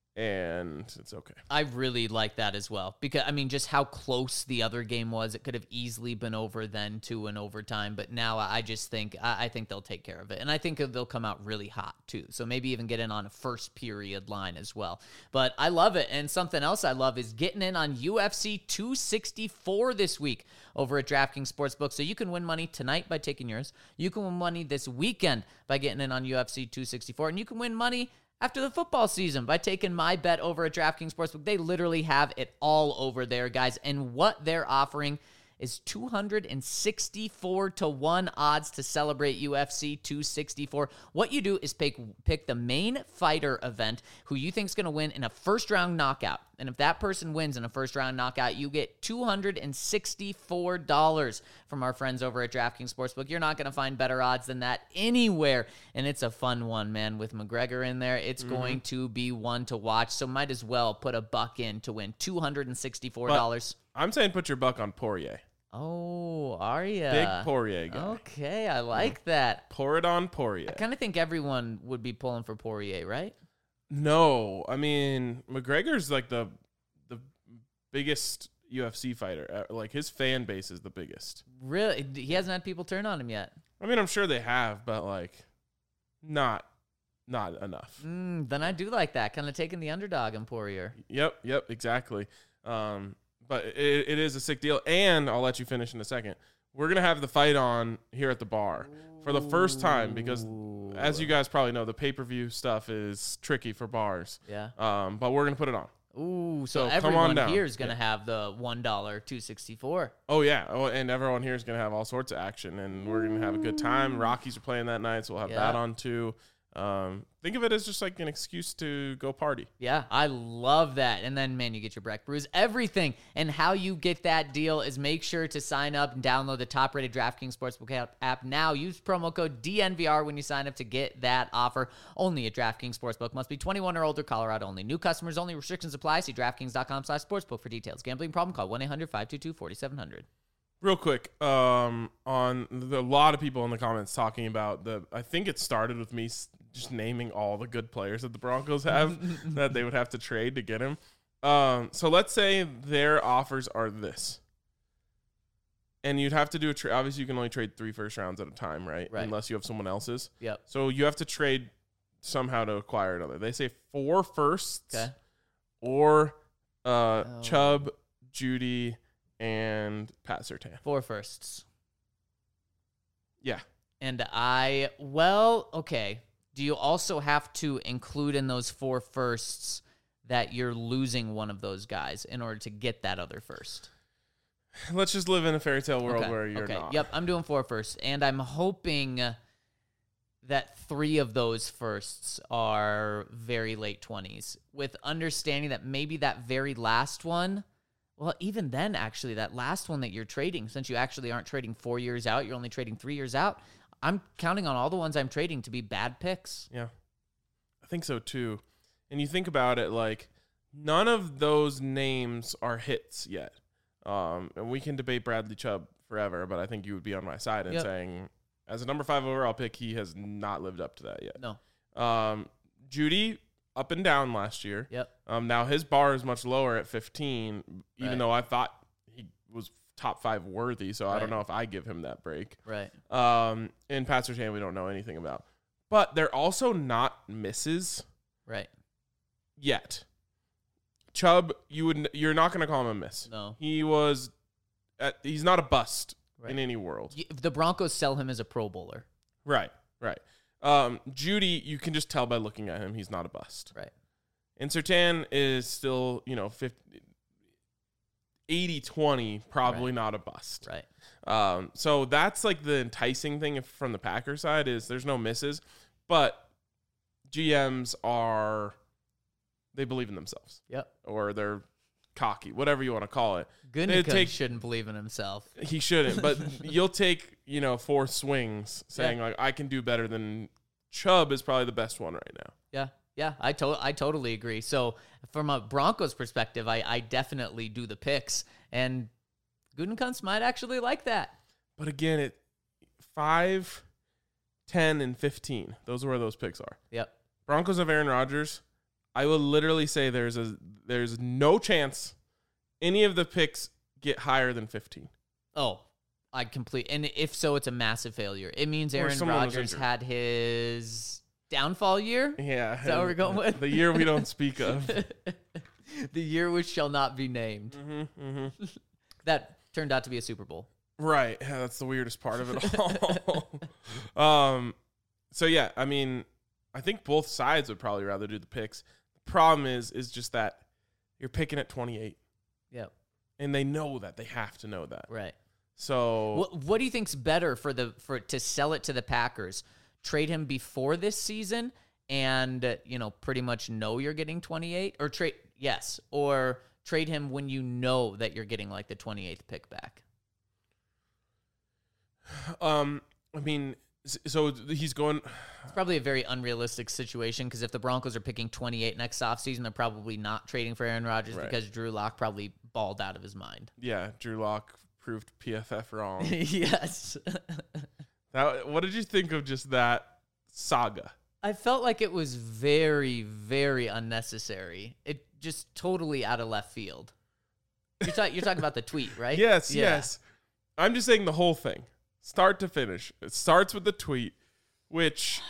and it's okay. I really like that as well because, I mean, just how close the other game was. It could have easily been over then to an overtime, but now I just think I I think they'll take care of it. And I think they'll come out really hot too. So maybe even get in on a first period line as well. But I love it. And something else I love is getting in on U F C two sixty-four this week over at DraftKings Sportsbook. So you can win money tonight by taking yours. You can win money this weekend by getting in on U F C two sixty-four. And you can win money after the football season by taking my bet over at DraftKings Sportsbook. They literally have it all over there, guys. And what they're offering is two hundred sixty-four to one odds to celebrate U F C two sixty-four. What you do is pick, pick the main fighter event who you think is going to win in a first-round knockout. And if that person wins in a first-round knockout, you get two hundred sixty-four dollars from our friends over at DraftKings Sportsbook. You're not going to find better odds than that anywhere. And it's a fun one, man. With McGregor in there, it's mm-hmm. going to be one to watch. So might as well put a buck in to win two hundred sixty-four dollars. But I'm saying put your buck on Poirier. Oh, are you? Big Poirier guy. Okay, I like yeah. that. Pour it on Poirier. I kind of think everyone would be pulling for Poirier, right? No, I mean McGregor's like the the biggest U F C fighter. Like his fan base is the biggest. Really, he hasn't had people turn on him yet. I mean, I'm sure they have, but like, not not enough. Mm, then I do like that, kind of taking the underdog in Poirier. Yep, yep, exactly. Um, but it, it is a sick deal, and I'll let you finish in a second. We're gonna have the fight on here at the bar for the first time because, Ooh. as you guys probably know, the pay-per-view stuff is tricky for bars. Yeah. Um, but we're gonna put it on. Ooh, so, So come everyone on down. here is gonna Yeah. have the one dollar two sixty four. Oh yeah, oh, and everyone here is gonna have all sorts of action, and we're gonna have a good time. Rockies are playing that night, so we'll have Yeah. that on too. Um, think of it as just like an excuse to go party. Yeah, I love that. And then, man, you get your Breck Brews, everything. And how you get that deal is make sure to sign up and download the top-rated DraftKings Sportsbook app now. Use promo code D N V R when you sign up to get that offer. Only at DraftKings Sportsbook. Must be twenty-one or older, Colorado only. New customers only. Restrictions apply. See DraftKings.com slash sportsbook for details. Gambling problem? Call one eight hundred five two two four seven zero zero. Real quick, um, on the, a lot of people in the comments talking about the. I think it started with me s- just naming all the good players that the Broncos have that they would have to trade to get him. Um, so let's say their offers are this, and you'd have to do a trade. Obviously, you can only trade three first rounds at a time, right? Right. Unless you have someone else's. Yep. So you have to trade somehow to acquire another. They say four firsts, Okay. or uh, Oh. Chubb, Judy, and Pat Surtain. Four firsts. Yeah. And I, well, okay. Do you also have to include in those four firsts that you're losing one of those guys in order to get that other first? Let's just live in a fairy tale world Okay, where you're okay. not. Yep, I'm doing four firsts. And I'm hoping that three of those firsts are very late twenties, with understanding that maybe that very last one, well, even then, actually, that last one that you're trading, since you actually aren't trading four years out, you're only trading three years out, I'm counting on all the ones I'm trading to be bad picks. Yeah. I think so too. And you think about it, like, none of those names are hits yet. Um, and we can debate Bradley Chubb forever, but I think you would be on my side in Yep. saying as a number five overall pick, he has not lived up to that yet. No. Um, Judy up and down last year. Yep. Um, now his bar is much lower at fifteen, even Right. though I thought he was top five worthy. So I don't Right. know if I give him that break. Right. Um, and Pat Surtain, we don't know anything about, but they're also not misses Right. yet. Chubb, you would you're not going to call him a miss. No. He was, at, he's not a bust Right. in any world. Y- The Broncos sell him as a Pro Bowler. Right, right. Um, Judy, you can just tell by looking at him, he's not a bust. Right. And Surtain is still, you know, fifty, eighty twenty, probably Right. not a bust. Right. Um, so that's like the enticing thing if- from the Packers side is there's no misses, but G Ms are, they believe in themselves Yep. or they're cocky, whatever you want to call it. They Gutekunst take- shouldn't believe in himself. He shouldn't, but you'll take, you know, four swings saying Yeah. like, I can do better than Chubb is probably the best one right now. Yeah. Yeah, I to- I totally agree. So from a Broncos perspective, I, I definitely do the picks, and Gutekunst might actually like that. But again, it five, ten, and fifteen. Those are where those picks are. Yep. Broncos of Aaron Rodgers. I will literally say there's a there's no chance any of the picks get higher than fifteen. Oh, I complete. And if so, it's a massive failure. It means Or Aaron someone was Rodgers injured. had his downfall year. Yeah, Is that what we're going with? The year we don't speak of. The year which shall not be named. Mm-hmm, mm-hmm. That turned out to be a Super Bowl. Right. Yeah, that's the weirdest part of it all. um. So yeah, I mean, I think both sides would probably rather do the picks. The problem is, is just that you're picking at twenty-eight, Yep. and they know that. They have to know that. Right. So What What do you think's better for the for to sell it to the Packers? Trade him before this season, and uh, you know pretty much know you're getting twenty-eight, or trade yes, or trade him when you know that you're getting like the twenty-eighth pick back. Um, I mean, s- so he's going. It's probably a very unrealistic situation because if the Broncos are picking twenty-eight next offseason, they're probably not trading for Aaron Rodgers Right. because Drew Lock probably balled out of his mind. Yeah, Drew Lock proved P F F wrong. Yes. That, what did you think of just that saga? I felt like it was very, very unnecessary. It just totally out of left field. You're, ta- you're talking about the tweet, right? Yes, Yeah. yes. I'm just saying the whole thing, start to finish. It starts with the tweet, which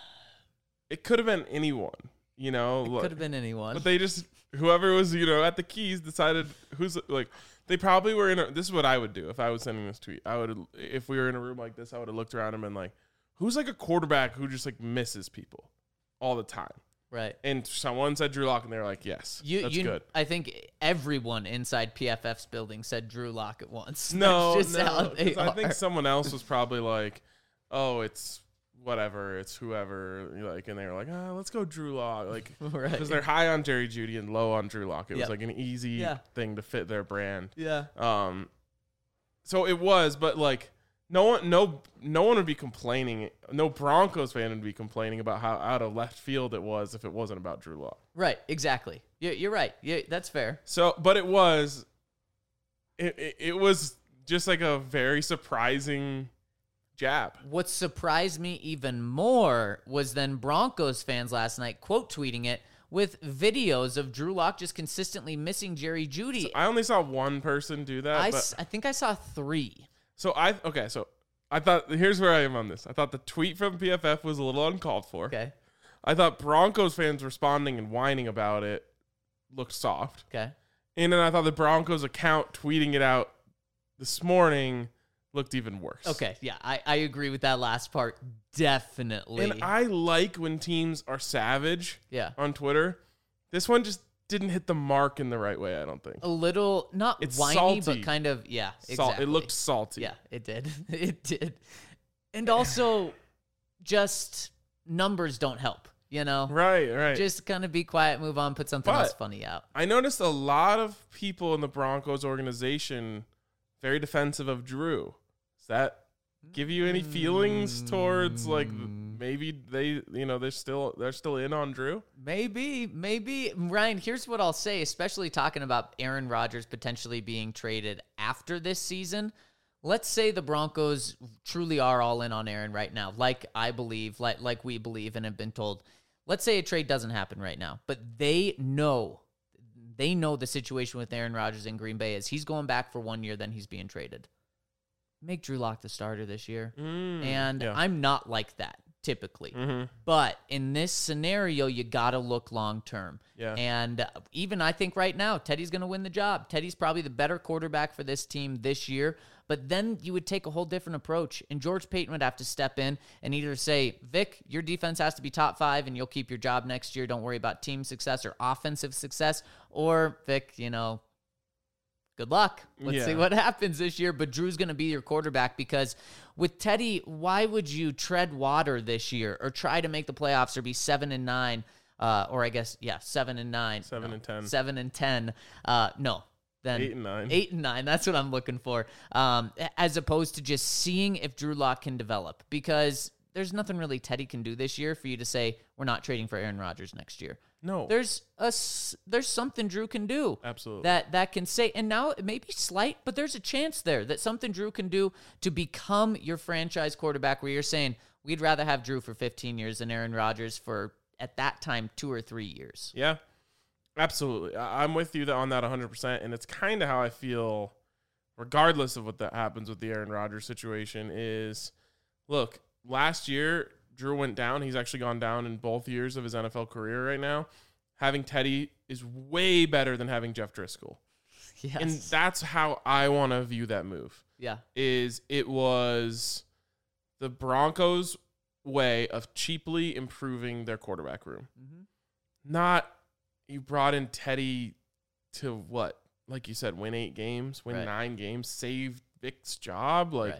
it could have been anyone, you know. Could have been anyone. But they just, whoever was, you know, at the keys decided who's, like, they probably were in a, this is what I would do if I was sending this tweet. I would, if we were in a room like this, I would have looked around and been like, who's like a quarterback who just like misses people all the time? Right. And someone said Drew Lock, and they're like, yes, You, that's you, good. I think everyone inside P F F's building said Drew Lock at once. No, That's just how no. they 'cause I think are. someone else was probably like, oh, it's whatever, it's whoever, like, and they were like, ah, let's go Drew Lock, like, Right. because they're high on Jerry Jeudy and low on Drew Lock. It Yep. was like an easy Yeah. thing to fit their brand. Yeah. Um, so it was, but like, no one, no, no one would be complaining. No Broncos fan would be complaining about how out of left field it was if it wasn't about Drew Lock. Right. Exactly. You're, you're right. Yeah, that's fair. So, but it was, it, it, it was just like a very surprising jab. What surprised me even more was then Broncos fans last night quote tweeting it with videos of Drew Lock just consistently missing Jerry Jeudy. I only saw one person do that. I, but, s- I think I saw three. so I, okay, so I thought, here's where I am on this. I thought the tweet from P F F was a little uncalled for. Okay. I thought Broncos fans responding and whining about it looked soft. Okay. And then I thought the Broncos account tweeting it out this morning looked even worse. Okay. Yeah, I, I agree with that last part. Definitely. And I like when teams are savage yeah. on Twitter. This one just didn't hit the mark in the right way, I don't think. A little, not It's whiny, salty. but kind of, yeah, Salt- exactly. It looked salty. Yeah, it did. It did. And also, just numbers don't help, you know? Right, right. Just kind of be quiet, move on, put something But- else funny out. I noticed a lot of people in the Broncos organization very defensive of Drew. Does that give you any feelings towards like maybe they, you know, they're still they're still in on Drew? Maybe, maybe. Ryan, here's what I'll say, especially talking about Aaron Rodgers potentially being traded after this season. let's say the Broncos truly are all in on Aaron right now, like I believe, like like we believe and have been told. Let's say a trade doesn't happen right now, but they know, they know the situation with Aaron Rodgers in Green Bay is he's going back for one year, then he's being traded. Make Drew Lock the starter this year. Mm, and yeah. I'm not like that typically. Mm-hmm. But in this scenario, you got to look long-term. Yeah. And uh, even I think right now, Teddy's going to win the job. Teddy's probably the better quarterback for this team this year. But then you would take a whole different approach. And George Paton would have to step in and either say, Vic, your defense has to be top five and you'll keep your job next year. Don't worry about team success or offensive success. Or, Vic, you know, good luck. Let's Yeah. see what happens this year. But Drew's going to be your quarterback because with Teddy, why would you tread water this year or try to make the playoffs or be seven and nine? Uh, or I guess, yeah, seven and nine. Seven No, and ten. Seven and ten. Uh, no. Then Eight and nine. Eight and nine. That's what I'm looking for. Um, as opposed to just seeing if Drew Lock can develop. Because there's nothing really Teddy can do this year for you to say, we're not trading for Aaron Rodgers next year. No. There's a s- there's something Drew can do. Absolutely. That that can say, and now it may be slight, but there's a chance there that something Drew can do to become your franchise quarterback where you're saying, we'd rather have Drew for fifteen years than Aaron Rodgers for, at that time, two or three years. Yeah, absolutely. I- I'm with you on that one hundred percent, and it's kind of how I feel regardless of what that happens with the Aaron Rodgers situation is, look, last year, Drew went down. He's actually gone down in both years of his N F L career right now. Having Teddy is way better than having Jeff Driscoll. Yes. And that's how I want to view that move. Yeah. Is it was the Broncos' way of cheaply improving their quarterback room. Mm-hmm. Not you brought in Teddy to what? Like you said, win eight games, win Right. nine games, save Vic's job. Like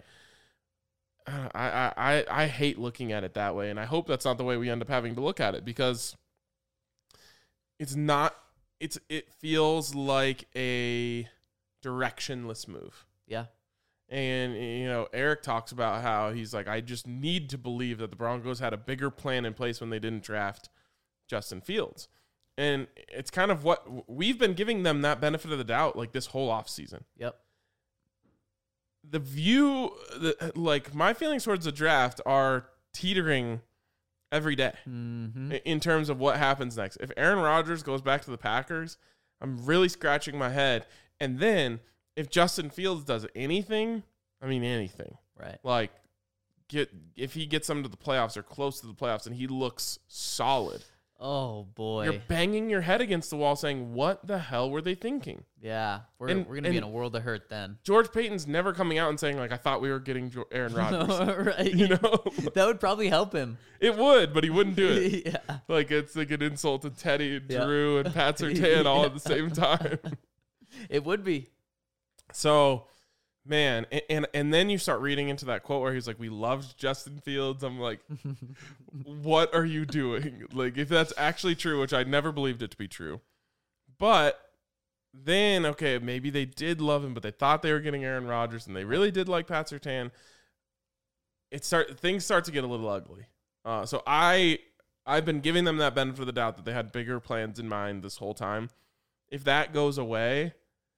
Right. I, I, I, I hate looking at it that way, and I hope that's not the way we end up having to look at it because it's not. It's it feels like a directionless move. Yeah. And, you know, Eric talks about how he's like, I just need to believe that the Broncos had a bigger plan in place when they didn't draft Justin Fields. And it's kind of what we've been giving them that benefit of the doubt, like this whole offseason. Yep. The view, the, like my feelings towards the draft are teetering every day Mm-hmm. in terms of what happens next. If Aaron Rodgers goes back to the Packers, I'm really scratching my head. And then if Justin Fields does anything, I mean anything, Right. like get if he gets them to the playoffs or close to the playoffs and he looks solid, Oh boy. you're banging your head against the wall saying, what the hell were they thinking? yeah. We're And- we're gonna be in and- a world of hurt then. George Payton's never coming out and saying, like, I thought we were getting jo- Aaron Rodgers. Right. You know? That would probably help him. It would, but he wouldn't do it. Yeah. Like, it's like an insult to Teddy and Yeah. Drew and Pat Surtain all at the same time. It would be. So, man, and, and and then you start reading into that quote where he's like, we loved Justin Fields. I'm like, what are you doing? Like, if that's actually true, which I never believed it to be true. But then, okay, maybe they did love him, but they thought they were getting Aaron Rodgers, and they really did like Pat Surtain. It start things start to get a little ugly. Uh, so I I've been giving them that benefit of the doubt that they had bigger plans in mind this whole time. If that goes away,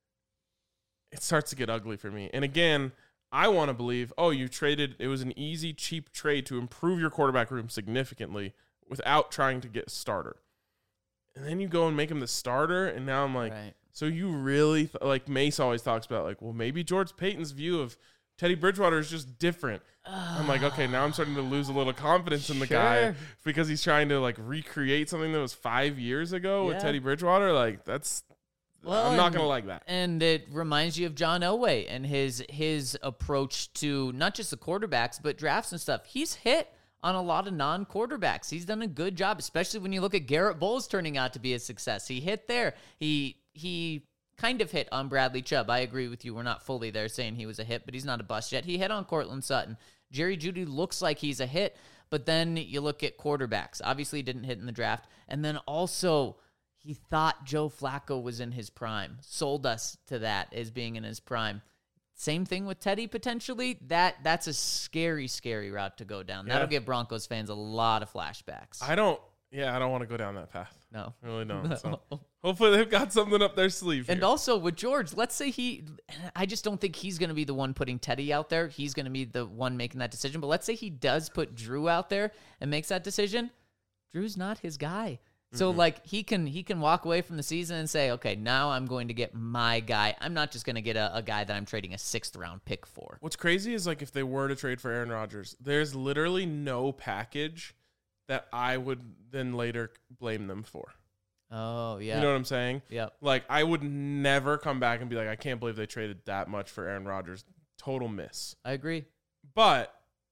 it starts to get ugly for me. And again, I want to believe, oh, you traded, it was an easy, cheap trade to improve your quarterback room significantly without trying to get a starter. And then you go and make him the starter, and now I'm like, Right. so you really, th- like Mace always talks about, like, well, maybe George Payton's view of Teddy Bridgewater is just different. I'm like, okay, now I'm starting to lose a little confidence in the guy Sure. because he's trying to, like, recreate something that was five years ago with Yeah. Teddy Bridgewater. Like, that's, Well, I'm not and- going to like that. And it reminds you of John Elway and his his approach to not just the quarterbacks, but drafts and stuff. He's hit on a lot of non-quarterbacks. He's done a good job, especially when you look at Garrett Bowles turning out to be a success. He hit there. He he kind of hit on Bradley Chubb. I agree with you. We're not fully there saying he was a hit, but he's not a bust yet. He hit on Cortland Sutton. Jerry Jeudy looks like he's a hit, but then you look at quarterbacks. Obviously, he didn't hit in the draft. And then also, he thought Joe Flacco was in his prime. Sold us to that as being in his prime. Same thing with Teddy potentially. That that's a scary, scary route to go down. That'll Yeah. give Broncos fans a lot of flashbacks. I don't, yeah, I don't want to go down that path. no. I really don't. So hopefully they've got something up their sleeve. And here. also with George, let's say he I just don't think he's going to be the one putting Teddy out there. He's going to be the one making that decision. But let's say he does put Drew out there and makes that decision. Drew's not his guy. So mm-hmm. like he can he can walk away from the season and say, okay, now I'm going to get my guy. I'm not just going to get a, a guy that I'm trading a sixth round pick for. What's crazy is like if they were to trade for Aaron Rodgers, there's literally no package that I would then later blame them for. Oh, yeah. You know what I'm saying? Yep. Like, I would never come back and be like, I can't believe they traded that much for Aaron Rodgers. Total miss. I agree. But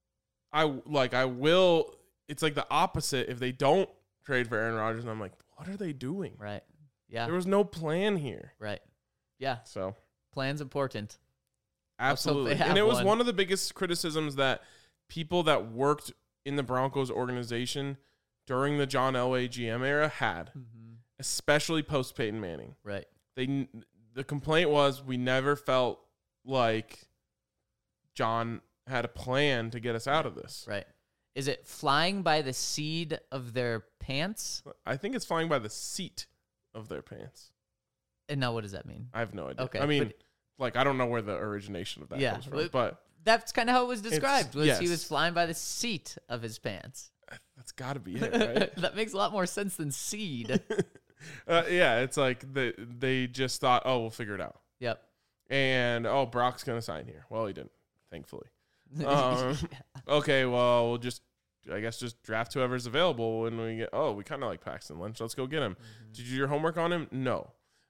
I like I will it's like the opposite if they don't trade for Aaron Rodgers and I'm like, what are they doing? Right. Yeah. There was no plan here. Right. Yeah. So plan's important. Absolutely. And it was one. one of the biggest criticisms that people that worked in the Broncos organization during the John Elway G M era had. Mm-hmm. Especially post Peyton Manning. Right. They the complaint was we never felt like John had a plan to get us out of this. Right. Is it flying by the seat of their pants? I think it's flying by the seat of their pants. And now what does that mean? I have no idea. Okay. I mean, but, like I don't know where the origination of that yeah, comes from, but that's kind of how it was described. Was yes. he was flying by the seat of his pants. That's got to be it, right? That makes a lot more sense than seed. Uh, yeah, it's like they they just thought, oh, we'll figure it out. Yep. And oh, Brock's gonna sign here. Well, he didn't, thankfully. Um, yeah. Okay, well, we'll just I guess just draft whoever's available when we get. Oh, we kind of like Paxton Lynch. Let's go get him. Mm-hmm. Did you do your homework on him? No.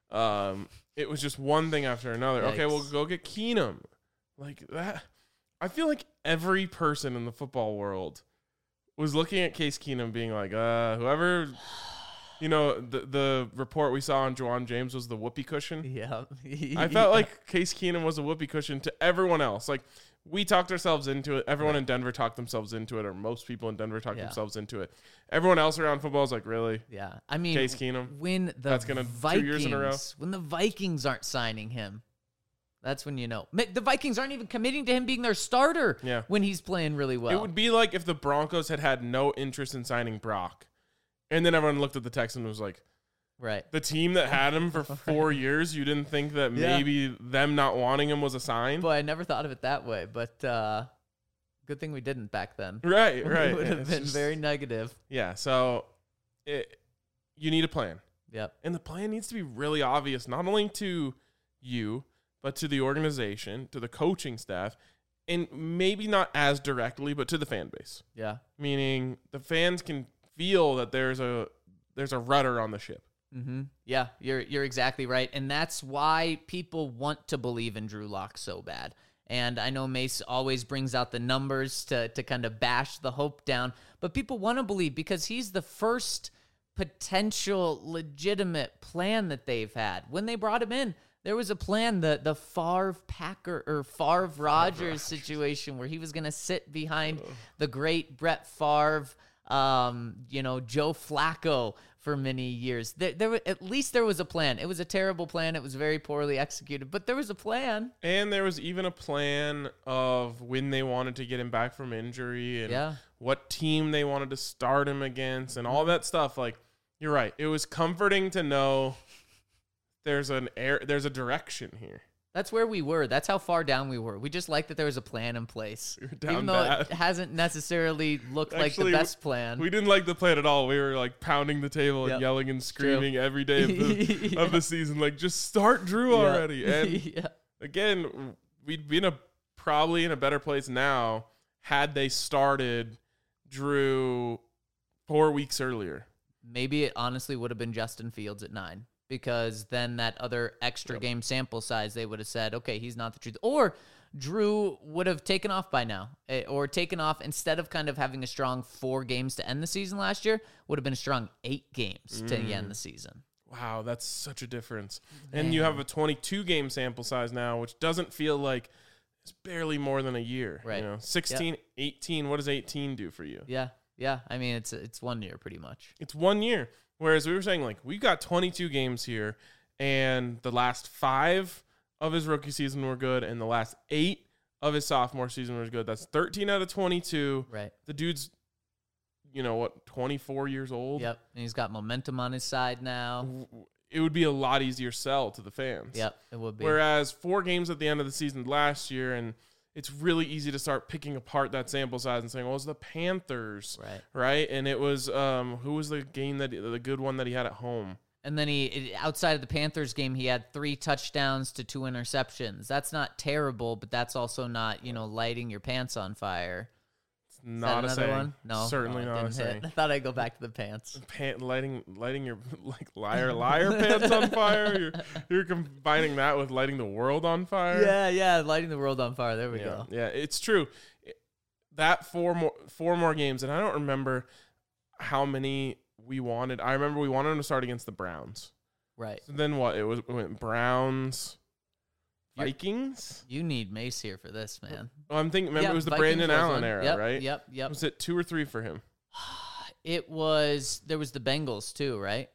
Um, it was just one thing after another. Yikes. Okay, we'll go get Keenum. Like that. I feel like every person in the football world was looking at Case Keenum, being like, uh, whoever. You know, the the report we saw on Juwan James was the whoopee cushion. Yeah. I felt like Case Keenum was a whoopee cushion to everyone else. Like, we talked ourselves into it. Everyone right. in Denver talked themselves into it, or most people in Denver talked yeah. themselves into it. Everyone else around football is like, really? Yeah. I mean, Case Keenum? When the that's gonna Vikings, two years in a row? When the Vikings aren't signing him, that's when you know. The Vikings aren't even committing to him being their starter yeah. when he's playing really well. It would be like if the Broncos had had no interest in signing Brock. And then everyone looked at the Texans and was like, right. The team that had him for four years, you didn't think that yeah. maybe them not wanting him was a sign? Boy, I never thought of it that way, but uh, good thing we didn't back then. Right, right. It would have been just, very negative. Yeah, so it, you need a plan. Yep. And the plan needs to be really obvious, not only to you, but to the organization, to the coaching staff, and maybe not as directly, but to the fan base. Yeah. Meaning the fans can feel that there's a there's a rudder on the ship. Mm-hmm. Yeah, you're you're exactly right, and that's why people want to believe in Drew Lock so bad. And I know Mace always brings out the numbers to to kind of bash the hope down, but people want to believe because he's the first potential legitimate plan that they've had. When they brought him in, there was a plan, the the Favre Packer or Favre Rodgers situation where he was going to sit behind oh. the great Brett Favre. Um, you know, Joe Flacco for many years. There, there, at least there was a plan. It was a terrible plan. It was very poorly executed, but there was a plan. And there was even a plan of when they wanted to get him back from injury and yeah. what team they wanted to start him against and all that stuff. Like, you're right. It was comforting to know there's an air, there's a direction here. That's where we were. That's how far down we were. We just liked that there was a plan in place. We were down Even though bad. It hasn't necessarily looked Actually, like the best plan. We didn't like the plan at all. We were like pounding the table yep. and yelling and screaming every day of the, yeah. of the season. Like, just start Drew yeah. already. And yeah. again, we'd be in a, probably in a better place now had they started Drew four weeks earlier. Maybe it honestly would have been Justin Fields at nine. Because then that other extra yep. game sample size, they would have said, okay, he's not the truth. Or Drew would have taken off by now. Or taken off, instead of kind of having a strong four games to end the season last year, would have been a strong eight games mm. to end the season. Wow, that's such a difference. Man. And you have a twenty-two game sample size now, which doesn't feel like it's barely more than a year. Right. You know, sixteen, yep. eighteen, what does eighteen do for you? Yeah, yeah. I mean, it's it's one year pretty much. It's one year. Whereas we were saying, like, we've got twenty-two games here, and the last five of his rookie season were good, and the last eight of his sophomore season was good. That's thirteen out of twenty-two. Right. The dude's, you know, what, twenty-four years old? Yep. And he's got momentum on his side now. it would be a lot easier sell to the fans. Yep, it would be. Whereas four games at the end of the season last year, and it's really easy to start picking apart that sample size and saying, well, it was the Panthers, Right. right? And it was, um, who was the game that, the good one that he had at home? And then he, outside of the Panthers game, he had three touchdowns to two interceptions. That's not terrible, but that's also not, you know, lighting your pants on fire. It's not a saying. One? No, Certainly no, it not a didn't hit. saying. I thought I'd go back to the pants. Pan- lighting, lighting your like liar, liar pants on fire. You're, you're combining that with lighting the world on fire. Yeah, yeah, lighting the world on fire. There we yeah, go. yeah, it's true. That four more, four more games, and I don't remember how many we wanted. I remember we wanted them to start against the Browns. Right. So then what? It was it went Browns, You're- Vikings. You need Mace here for this, man. Oh, I'm thinking. Remember, Yeah, it was the Vikings Brandon was Allen one. era, Yep, right? Yep, yep. Was it two or three for him? It was, there was the Bengals too, right?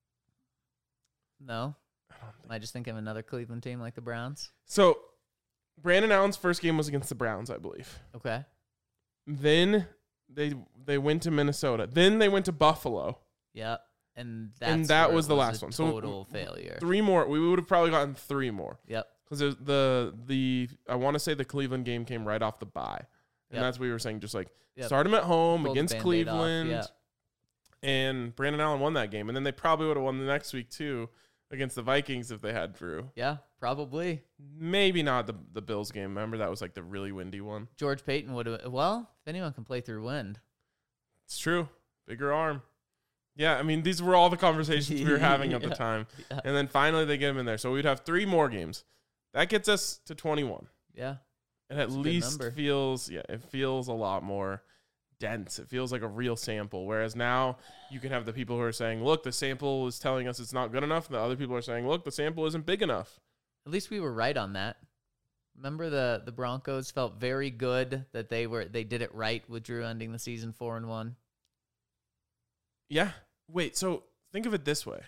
No? I don't think. Am I just thinking of another Cleveland team like the Browns? So, Brandon Allen's first game was against the Browns, I believe. Okay. Then they they went to Minnesota. Then they went to Buffalo. Yep. And that's And that where was it the a last one. So, Total failure. Three more. We would have probably gotten three more. Yep. Because the the I want to say the Cleveland game came right off the bye, and Yep. that's what we were saying. Just like Yep. start them at home Pull the against Band-Aid off, Cleveland, yeah. and Brandon Allen won that game, and then they probably would have won the next week too against the Vikings if they had Drew. Yeah, probably. Maybe not the the Bills game. Remember that was like the really windy one. George Payton would have, well, if anyone can play through wind. It's true. Bigger arm. Yeah, I mean these were all the conversations we were having at the Yeah. time, Yeah. and then finally they get him in there. So we'd have three more games. That gets us to twenty-one. Yeah. It at That's a good least number. feels, yeah, it feels a lot more dense. It feels like a real sample. Whereas now you can have the people who are saying, look, the sample is telling us it's not good enough. And the other people are saying, look, the sample isn't big enough. At least we were right on that. Remember the the Broncos felt very good that they were they did it right with Drew ending the season four and one. Yeah. Wait, so think of it this way.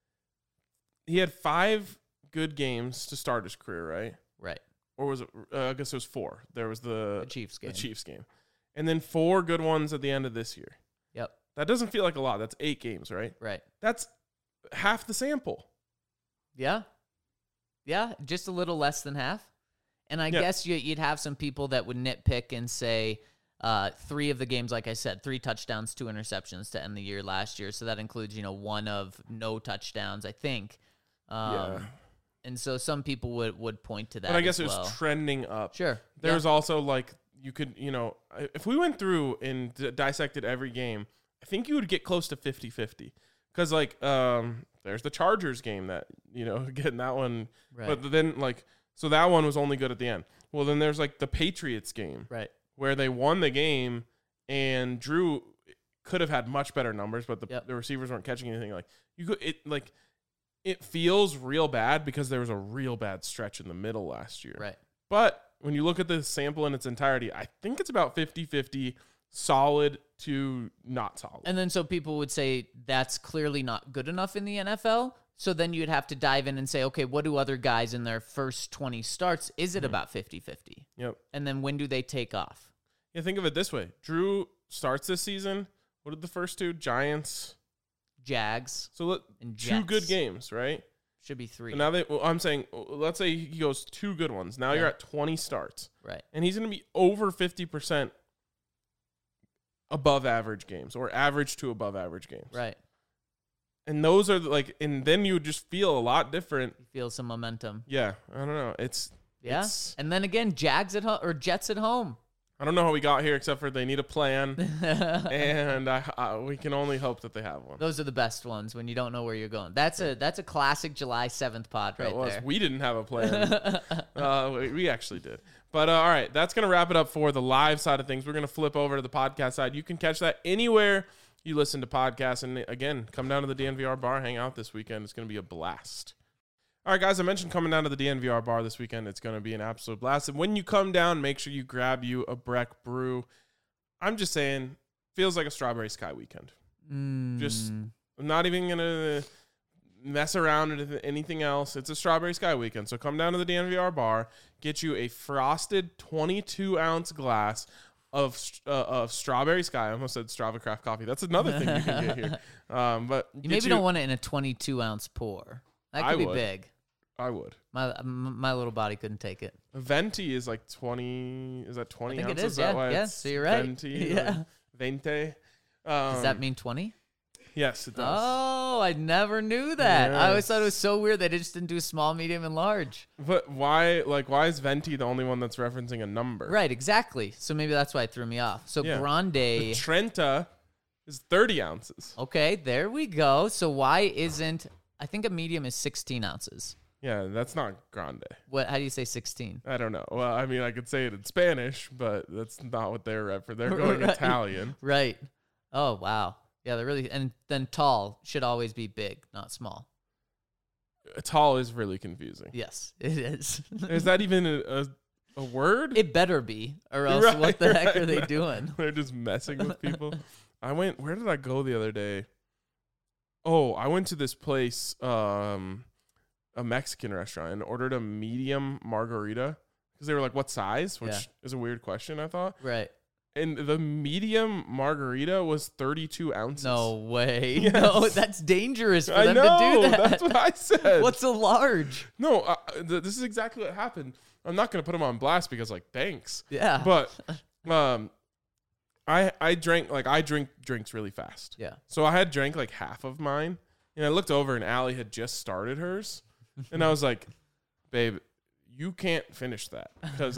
He had five good games to start his career, right? Right. Or was it, uh, I guess it was four. There was the, The Chiefs game. the Chiefs game. And then four good ones at the end of this year. Yep. That doesn't feel like a lot. That's eight games, right? Right. That's half the sample. Yeah. Yeah, just a little less than half. And I Yeah. guess you, you'd have some people that would nitpick and say uh, three of the games, like I said, three touchdowns, two interceptions to end the year last year. So that includes, you know, one of no touchdowns, I think. Um, Yeah. And so some people would, would point to that. But I guess as it was well. trending up. Sure. There's yeah. also like, you could, you know, if we went through and d- dissected every game, I think you would get close to fifty-fifty. Because, like, um, there's the Chargers game that, you know, getting that one. Right. But then, like, so that one was only good at the end. Well, then there's, like, the Patriots game. Right. Where they won the game and Drew could have had much better numbers, but the, Yep. the receivers weren't catching anything. Like, you could, it, like, it feels real bad because there was a real bad stretch in the middle last year. Right. But when you look at the sample in its entirety, I think it's about fifty-fifty solid to not solid. And then so people would say that's clearly not good enough in the N F L. So then you'd have to dive in and say, okay, what do other guys in their first twenty starts? Is it Mm-hmm. about fifty-fifty? Yep. And then when do they take off? Yeah, think of it this way. Drew starts this season. What did the first two? Giants. Jags So let, and two Jets. good games, right? Should be three. So now they, well, I'm saying, let's say he goes two good ones. Now Yeah. you're at twenty starts. Right. And he's going to be over fifty percent above average games or average to above average games. Right. And those are like, and then you would just feel a lot different. You feel some momentum. Yeah. I don't know. It's, Yeah. It's- And then again, Jags at home or Jets at home. I don't know how we got here except for they need a plan. and I, I, we can only hope that they have one. Those are the best ones when you don't know where you're going. That's a that's a classic July seventh pod right That was. there. We didn't have a plan. uh, we, we actually did. But uh, all right, that's going to wrap it up for the live side of things. We're going to flip over to the podcast side. You can catch that anywhere you listen to podcasts. And again, come down to the D N V R bar, hang out this weekend. It's going to be a blast. All right, guys, I mentioned coming down to the D N V R bar this weekend. It's going to be an absolute blast. And when you come down, make sure you grab you a Breck brew. I'm just saying, feels like a Strawberry Sky weekend. Mm. Just I'm not even going to mess around with anything else. It's a Strawberry Sky weekend. So come down to the D N V R bar, get you a frosted twenty-two ounce glass of uh, of Strawberry Sky. I almost said Strava Craft Coffee. That's another thing you can get here. Um, but You maybe don't want it in a twenty-two ounce pour. That could I be would. big. I would. My my little body couldn't take it. Venti is like twenty. Is that twenty I think ounces? it is. Is that Yeah, why yeah. it's So you're right. Venti, Yeah. or Vente. Um, Does that mean twenty? Yes, it does. Oh, I never knew that. I always thought it was Yes. so weird they just didn't do small, medium, and large. But why? Like, why is Venti the only one that's referencing a number? Right, exactly. So maybe that's why it threw me off. So Yeah. Grande. The Trenta is thirty ounces. Okay, there we go. So why isn't I think a medium is sixteen ounces. Yeah, that's not Grande. What? How do you say sixteen? I don't know. Well, I mean, I could say it in Spanish, but that's not what they're referencing. They're going Right. Italian. Right. Oh wow. Yeah, they're really and then tall should always be big, not small. Tall is really confusing. Yes, it is. Is that even a, a, a word? It better be, or else Right, what the heck right, are they right. doing? They're just messing with people. I went. Where did I go the other day? Oh, I went to this place, um, a Mexican restaurant, and ordered a medium margarita because they were like, "What size?" Which Yeah. is a weird question, I thought. Right. And the medium margarita was thirty-two ounces. No way. Yes. No, that's dangerous for I them know. to do that. That's what I said. What's a large? No, uh, th- this is exactly what happened. I'm not gonna put them on blast because, like, thanks. Yeah. But, um, I I drank like I drink drinks really fast. Yeah. So I had drank like half of mine, and I looked over, and Allie had just started hers, and I was like, "Babe, you can't finish that because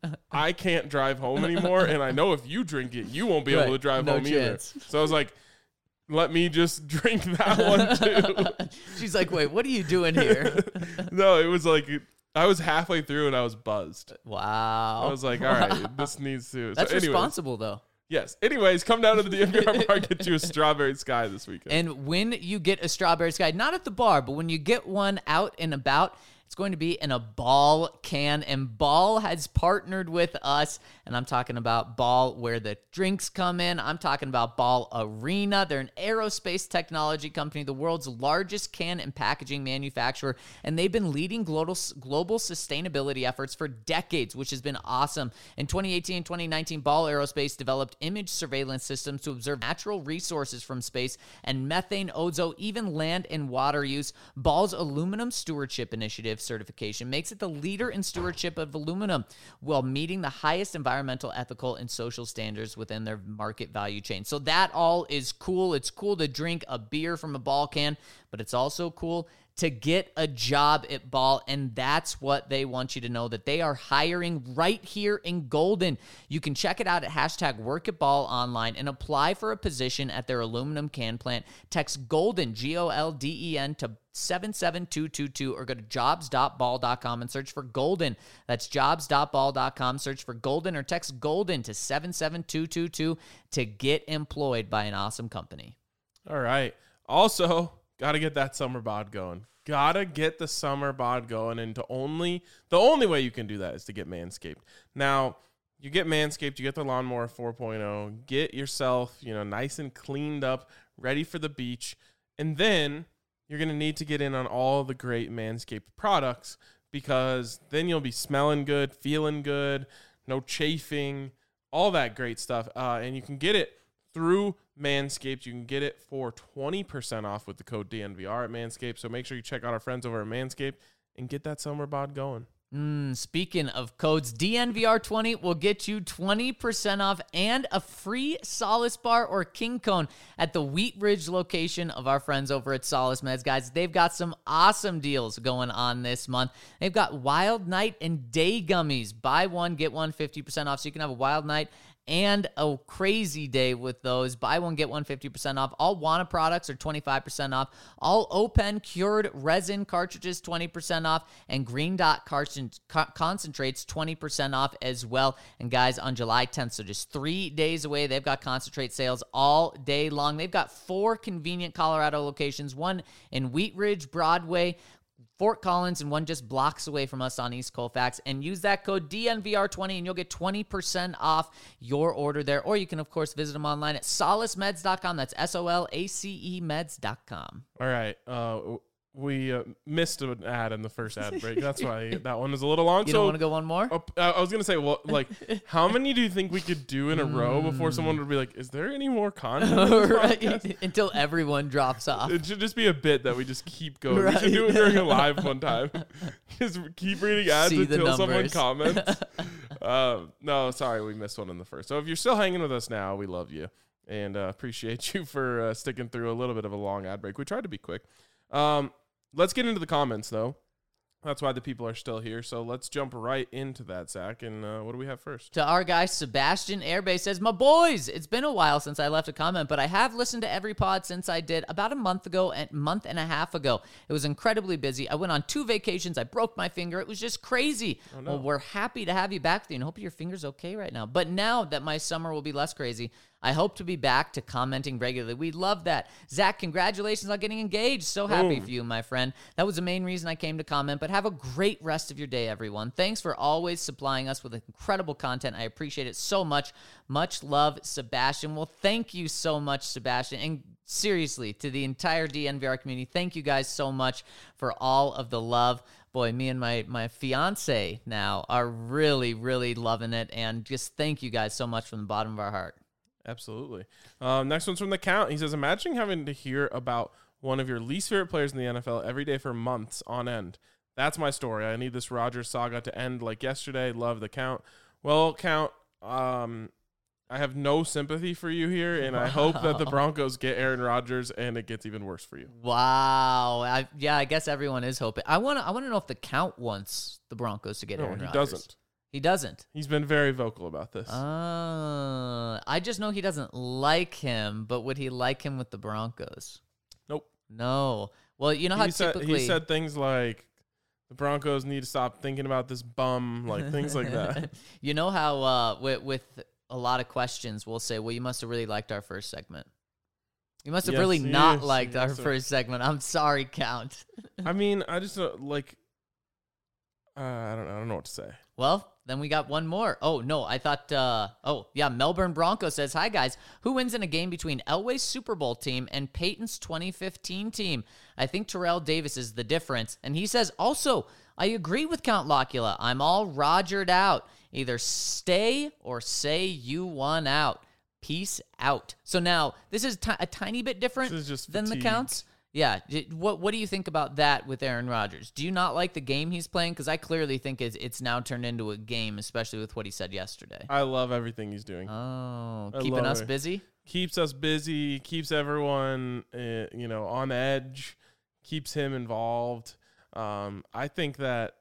I can't drive home anymore, and I know if you drink it, you won't be Right. able to drive No home chance. either." So I was like, "Let me just drink that one too." She's like, wait, what are you doing here? No, it was like I was halfway through and I was buzzed. Wow. I was like, "All right, this needs to." That's so anyways, responsible, though. Yes. Anyways, come down to the D N V R bar, get you a Strawberry Sky this weekend. And when you get a Strawberry Sky, not at the bar, but when you get one out and about, it's going to be in a Ball can. And Ball has partnered with us. And I'm talking about Ball where the drinks come in. I'm talking about Ball Arena. They're an aerospace technology company, the world's largest can and packaging manufacturer. And they've been leading global, global sustainability efforts for decades, which has been awesome. In twenty eighteen and twenty nineteen, Ball Aerospace developed image surveillance systems to observe natural resources from space and methane, ozone, even land and water use. Ball's Aluminum Stewardship Initiative certification makes it the leader in stewardship of aluminum while meeting the highest environmental, ethical, and social standards within their market value chain. So that all is cool. It's cool to drink a beer from a Ball can, but it's also cool to get a job at Ball, and that's what they want you to know, that they are hiring right here in Golden. You can check it out at hashtag work at Ball online and apply for a position at their aluminum can plant. Text Golden, G O L D E N, to seven seven two two two or go to jobs dot ball dot com and search for Golden. That's jobs dot ball dot com. Search for Golden or text Golden to seven seven two two two to get employed by an awesome company. All right. Also, got to get that summer bod going. Gotta get the summer bod going, and to only the only way you can do that is to get Manscaped. Now, you get Manscaped, you get the Lawnmower four point oh, get yourself, you know, nice and cleaned up, ready for the beach, and then you're gonna need to get in on all the great Manscaped products because then you'll be smelling good, feeling good, no chafing, all that great stuff, uh, and you can get it through Manscaped. You can get it for twenty percent off with the code D N V R at Manscaped. So make sure you check out our friends over at Manscaped and get that summer bod going. Mm, speaking of codes, D N V R twenty will get you twenty percent off and a free Solace Bar or King Cone at the Wheat Ridge location of our friends over at Solace Meds. Guys, they've got some awesome deals going on this month. They've got Wild Night and Day Gummies. Buy one, get one fifty percent off, so you can have a wild night and a crazy day with those. Buy one, get one fifty percent off. All Wana products are twenty-five percent off. All Open cured resin cartridges, twenty percent off. And Green Dot concentrates, twenty percent off as well. And guys, on July tenth, so just three days away, they've got concentrate sales all day long. They've got four convenient Colorado locations, one in Wheat Ridge, Broadway, Fort Collins, and one just blocks away from us on East Colfax. And use that code D N V R twenty and you'll get twenty percent off your order there. Or you can, of course, visit them online at solace meds dot com. That's S O L A C E meds dot com. All right. Uh, we uh, missed an ad in the first ad break. That's why that one was a little long. You so don't want to go one more? uh, I was gonna say, well, like, how many do you think we could do in a row before someone would be like, "Is there any more content?" in this Right. podcast?" Until everyone drops off. It should just be a bit that we just keep going. Right. We should do it during a live one time. Just keep reading ads See the until someone numbers. comments. uh, no, sorry, we missed one in the first. So if you're still hanging with us now, we love you and uh, appreciate you for uh, sticking through a little bit of a long ad break. We tried to be quick. Um, let's get into the comments, though. That's why the people are still here. So let's jump right into that, Zach. And uh, what do we have first? To our guy, Sebastian Airbase says, my boys, it's been a while since I left a comment, but I have listened to every pod since I did about a month ago and month and a half ago. It was incredibly busy. I went on two vacations. I broke my finger. It was just crazy. Oh, no. Well, we're happy to have you back with you and hope your finger's okay right now. But now that my summer will be less crazy, I hope to be back to commenting regularly. We love that. Zach, congratulations on getting engaged. So happy Boom. for you, my friend. That was the main reason I came to comment, but have a great rest of your day, everyone. Thanks for always supplying us with incredible content. I appreciate it so much. Much love, Sebastian. Well, thank you so much, Sebastian. And seriously, to the entire D N V R community, thank you guys so much for all of the love. Boy, me and my, my fiance now are really, really loving it. And just thank you guys so much from the bottom of our heart. Absolutely. Um, next one's from The Count. He says, imagine having to hear about one of your least favorite players in the N F L every day for months on end. That's my story. I need this Rodgers saga to end like yesterday. Love The Count. Well, Count, um, I have no sympathy for you here, and I hope that the Broncos get Aaron Rodgers and it gets even worse for you. Wow. I, yeah, I guess everyone is hoping. I want to I want to know if the Count wants the Broncos to get No, Aaron he Rodgers. doesn't. He doesn't. He's been very vocal about this. Uh, I just know he doesn't like him, but would he like him with the Broncos? Nope. No. Well, you know how he, said, typically he said things like, the Broncos need to stop thinking about this bum, like things like that. You know how uh, with, with a lot of questions, we'll say, well, you must have really liked our first segment. You must have Yes, really yes, not liked our yes, sir. first segment. I'm sorry, Count. I mean, I just uh, like, uh, I don't know. I don't know what to say. Well, then we got one more. Oh, no, I thought, uh, oh, yeah, Melbourne Bronco says, hi, guys. Who wins in a game between Elway's Super Bowl team and Peyton's twenty fifteen team? I think Terrell Davis is the difference. And he says, also, I agree with Count Locula. I'm all Rogered out. Either stay or say you won out. Peace out. So now, this is ti- a tiny bit different This is just than the fatigue. Counts. Yeah. J- What What do you think about that with Aaron Rodgers? Do you not like the game he's playing? Because I clearly think it's, it's now turned into a game, especially with what he said yesterday. I love everything he's doing. Oh, I keeping love us it. busy? Keeps us busy, keeps everyone, uh, you know, on edge, keeps him involved. Um, I think that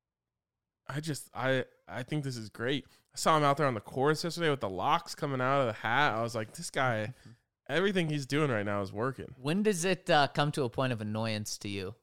I just, I, I think this is great. I saw him out there on the course yesterday with the locks coming out of the hat. I was like, this guy, everything he's doing right now is working. When does it uh, come to a point of annoyance to you?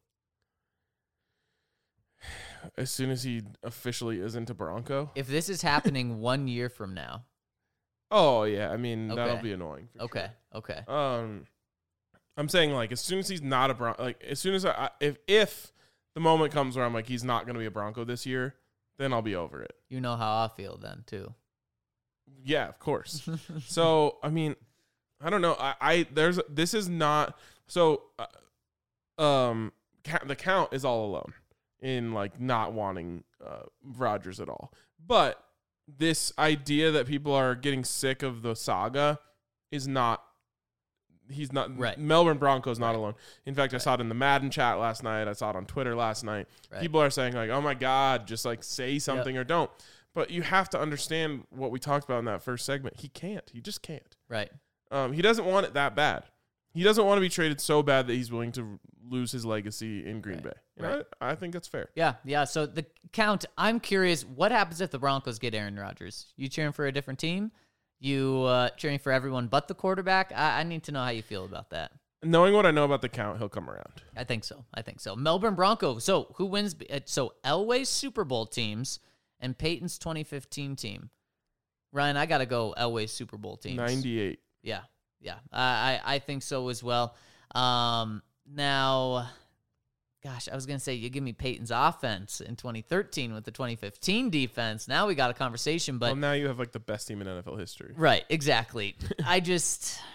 As soon as he officially isn't a Bronco. If this is happening one year from now. Oh yeah, I mean that'll Okay. be annoying. for Okay, okay. sure. Um, I'm saying like as soon as he's not a Bronco, like as soon as I if if the moment comes where I'm like he's not going to be a Bronco this year, then I'll be over it. You know how I feel then, too. Yeah, of course. So I mean, I don't know. I, I there's this is not so. Uh, um, ca- the Count is all alone in like not wanting uh, Rodgers at all, but this idea that people are getting sick of the saga is not. He's not Right. Melbourne Broncos not Right. alone. In fact, I Right. saw it in the Madden chat last night. I saw it on Twitter last night. Right. People are saying like, "Oh my God, just like say something or don't." But you have to understand what we talked about in that first segment. He can't. He just can't. Right. Um, he doesn't want it that bad. He doesn't want to be traded so bad that he's willing to lose his legacy in Green Right. Bay. And Right. I, I think that's fair. Yeah, yeah. So the Count, I'm curious, what happens if the Broncos get Aaron Rodgers? You cheering for a different team? You uh, cheering for everyone but the quarterback? I, I need to know how you feel about that. Knowing what I know about the Count, he'll come around. I think so. I think so. Melbourne Broncos. So who wins? uh, So Elway's Super Bowl teams and Peyton's twenty fifteen team. Ryan, I got to go Elway's Super Bowl teams. ninety-eight. Yeah, yeah. I, I I think so as well. Um, now, gosh, I was going to say you give me Peyton's offense in twenty thirteen with the twenty fifteen defense. Now we got a conversation, but Well, now you have like the best team in N F L history. right, exactly. I just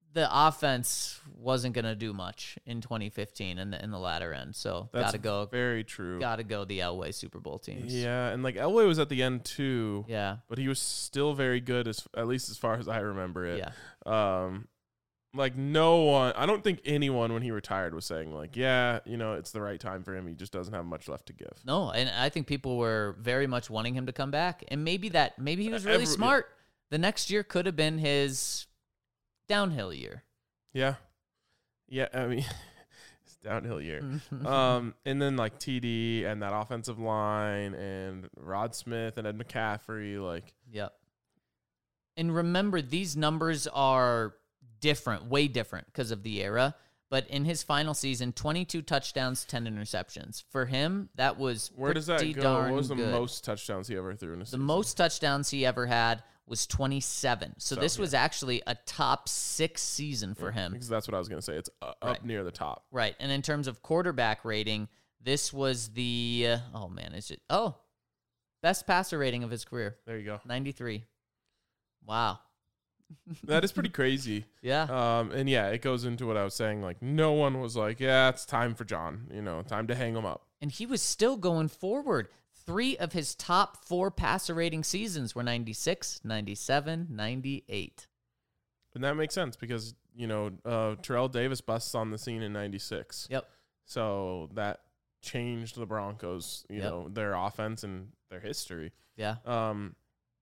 the offense wasn't going to do much in twenty fifteen in the in the latter end. So That's got to go. very true. Got to go the Elway Super Bowl teams. Yeah, and like Elway was at the end too. Yeah. But he was still very good, as at least as far as I remember it. Yeah. Um, like no one, I don't think anyone when he retired was saying like, yeah, you know, it's the right time for him. He just doesn't have much left to give. No, and I think people were very much wanting him to come back, and maybe that maybe he was really Every- smart. The next year could have been his downhill year. Yeah, yeah. I mean, it's downhill year. um, and then like T D and that offensive line and Rod Smith and Ed McCaffrey, like, Yep. And remember, these numbers are different, way different because of the era. But in his final season, twenty-two touchdowns, ten interceptions. For him, that was where does that pretty go? darn What was the good. most touchdowns he ever threw in a The season? most touchdowns he ever had was twenty-seven. So, So, this yeah. was actually a top six season for him. Because that's what I was gonna say. It's uh, Right. up near the top. Right. And in terms of quarterback rating, this was the, uh, oh man, is it, oh, best passer rating of his career, There you go. ninety-three. Wow. That is pretty crazy. Yeah. Um, and yeah, it goes into what I was saying. Like, no one was like, yeah, it's time for John. You know, time to hang him up. And he was still going forward. Three of his top four passer rating seasons were ninety-six, ninety-seven, ninety-eight. And that makes sense because, you know, uh, Terrell Davis busts on the scene in ninety-six. Yep. So that changed the Broncos, you Yep. know, their offense and their history. Yeah. Um,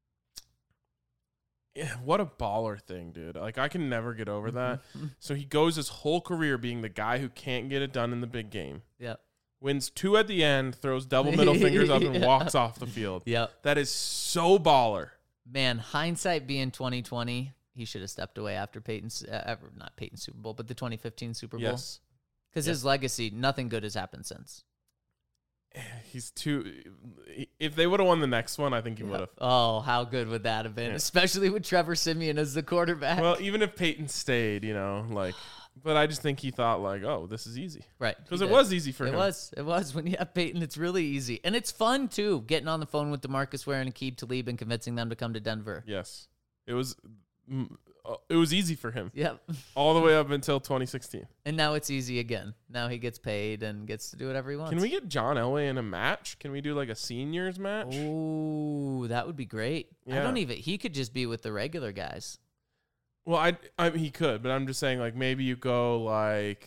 yeah, what a baller thing, dude. Like, I can never get over that. So he goes his whole career being the guy who can't get it done in the big game. Yep. Wins two at the end, throws double middle fingers up and Yeah. walks off the field. Yep. That is so baller. Man, hindsight being twenty twenty, he should have stepped away after Peyton's, uh, ever- not Peyton's Super Bowl, but the twenty fifteen Super Bowl. Yes. Because his legacy, nothing good has happened since. He's too. If they would have won the next one, I think he would have. Oh, how good would that have been? Yeah. Especially with Trevor Siemian as the quarterback. Well, even if Peyton stayed, you know, like, but I just think he thought like, oh, this is easy right. because he it did. was easy for It him. was. It was. When you have Peyton, it's really easy. And it's fun, too, getting on the phone with DeMarcus Ware and Aqib Talib and convincing them to come to Denver. Yes, it was. mm, uh, It was easy for him Yep. all the way up until twenty sixteen. And now it's easy again. Now he gets paid and gets to do whatever he wants. Can we get John Elway in a match? Can we do like a seniors match? Oh, that would be great. I Yeah. don't even. He could just be with the regular guys. Well, I, I he could, but I'm just saying like maybe you go like,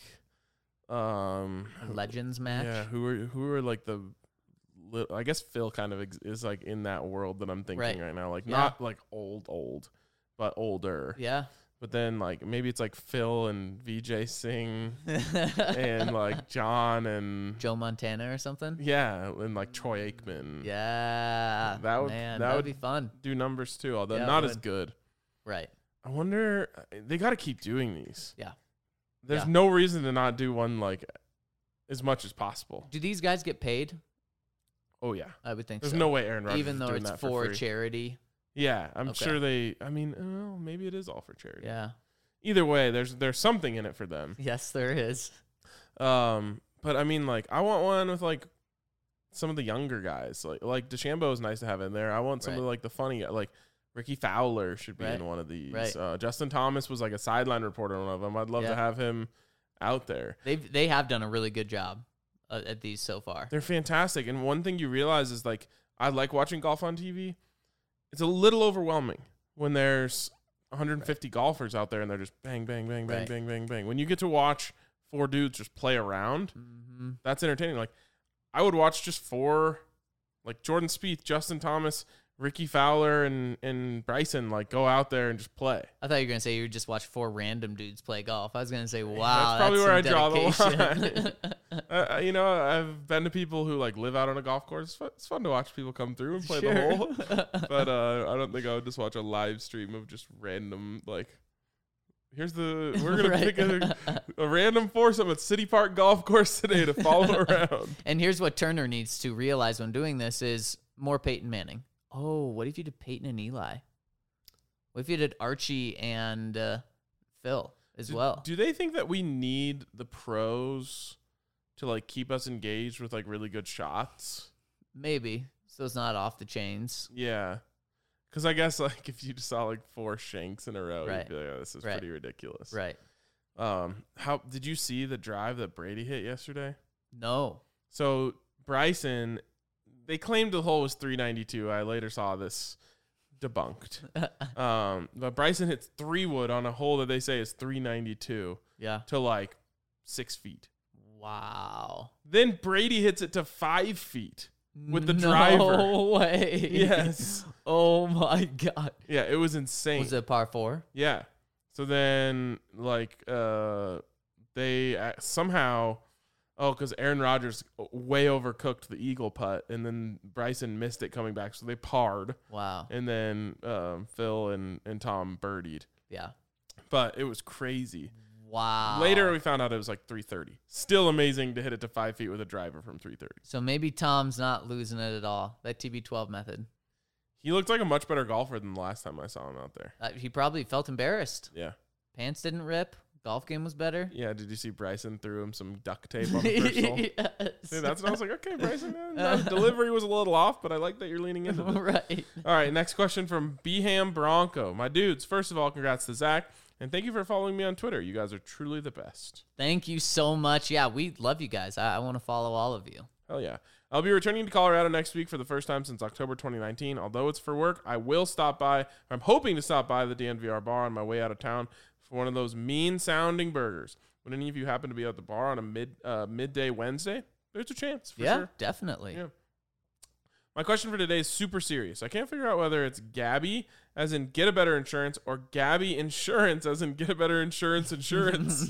um, A Legends match. yeah, who are who are like the, li- I guess Phil kind of ex- is like in that world that I'm thinking Right. right, now, like Yeah. not like old old, but older. Yeah. But then like maybe it's like Phil and V J Singh and like John and Joe Montana or something. yeah, and like Troy Aikman. Yeah. That would- man, that that would- would be fun. Do numbers too, although Yeah, it not as would. good. Right. I wonder they got to keep doing these. Yeah. There's Yeah. no reason to not do one like as much as possible. Do these guys get paid? Oh yeah. I would think There's so. no way Aaron Rodgers Even is though doing it's that for free. charity. Yeah, I'm Okay. sure they I mean, oh, maybe it is all for charity. Yeah. Either way, there's there's something in it for them. Yes, there is. Um, but I mean, like, I want one with like some of the younger guys. Like, like DeChambeau is nice to have in there. I want some Right. of like the funny, guy- like Ricky Fowler should be Right. in one of these. Right. Uh, Justin Thomas was like a sideline reporter on one of them. I'd love Yeah. to have him out there. They've they have done a really good job uh, at these so far. They're fantastic. And one thing you realize is like, I like watching golf on T V. It's a little overwhelming when there's one hundred fifty golfers out there and they're just bang, bang, bang, bang, Right. bang, bang, bang. When you get to watch four dudes just play around, Mm-hmm. that's entertaining. Like, I would watch just four, like Jordan Spieth, Justin Thomas, Ricky Fowler, and and Bryson, like go out there and just play. I thought you were gonna say you would just watch four random dudes play golf. I was gonna say, wow, probably that's where I some draw the dedication. Uh, you know, I've been to people who like live out on a golf course. It's fun, it's fun to watch people come through and play Sure. the hole. But uh, I don't think I would just watch a live stream of just random like. Here's the we're gonna Right. pick a, a random foursome at City Park Golf Course today to follow around. And here's what Turner needs to realize when doing this is more Peyton Manning. Oh, what if you did Peyton and Eli? What if you did Archie and uh, Phil as Do- well? Do they think that we need the pros to like keep us engaged with like really good shots? Maybe. So it's not off the chains. Yeah. Because I guess like if you just saw like four shanks in a row, Right. you'd be like, oh, this is Right. pretty ridiculous. Right. Um, how did you see the drive that Brady hit yesterday? No. So Bryson, they claimed the hole was three ninety-two. I later saw this debunked. um, but Bryson hits three wood on a hole that they say is three ninety-two Yeah. to like six feet. Wow. Then Brady hits it to five feet with the no driver. No way. Yes. Oh my God. Yeah, it was insane. Was it par four? Yeah. So then, like, uh, they uh, somehow, oh, because Aaron Rodgers way overcooked the eagle putt, and then Bryson missed it coming back, so they parred, Wow. and then um, Phil and, and Tom birdied. Yeah. But it was crazy. Wow. Later, we found out it was like three thirty. Still amazing to hit it to five feet with a driver from three thirty. So maybe Tom's not losing it at all. That T B twelve method. He looked like a much better golfer than the last time I saw him out there. Uh, he probably felt embarrassed. Yeah. Pants didn't rip. Golf game was better. Yeah, did you see Bryson threw him some duct tape on the first hole? Yes. See, that's when I was like, okay, Bryson, uh, no, delivery was a little off, but I like that you're leaning into it. Right. All right, next question from Beham Bronco. My dudes, first of all, congrats to Zach, and thank you for following me on Twitter. You guys are truly the best. Thank you so much. Yeah, we love you guys. I, I want to follow all of you. Hell yeah. I'll be returning to Colorado next week for the first time since October twenty nineteen. Although it's for work, I will stop by. I'm hoping to stop by the D N V R bar on my way out of town for one of those mean-sounding burgers. Would any of you happen to be at the bar on a mid uh, midday Wednesday? There's a chance, for yeah, sure. definitely. Yeah. My question for today is super serious. I can't figure out whether it's Gabby, as in get a better insurance, or Gabby Insurance, as in get a better insurance insurance.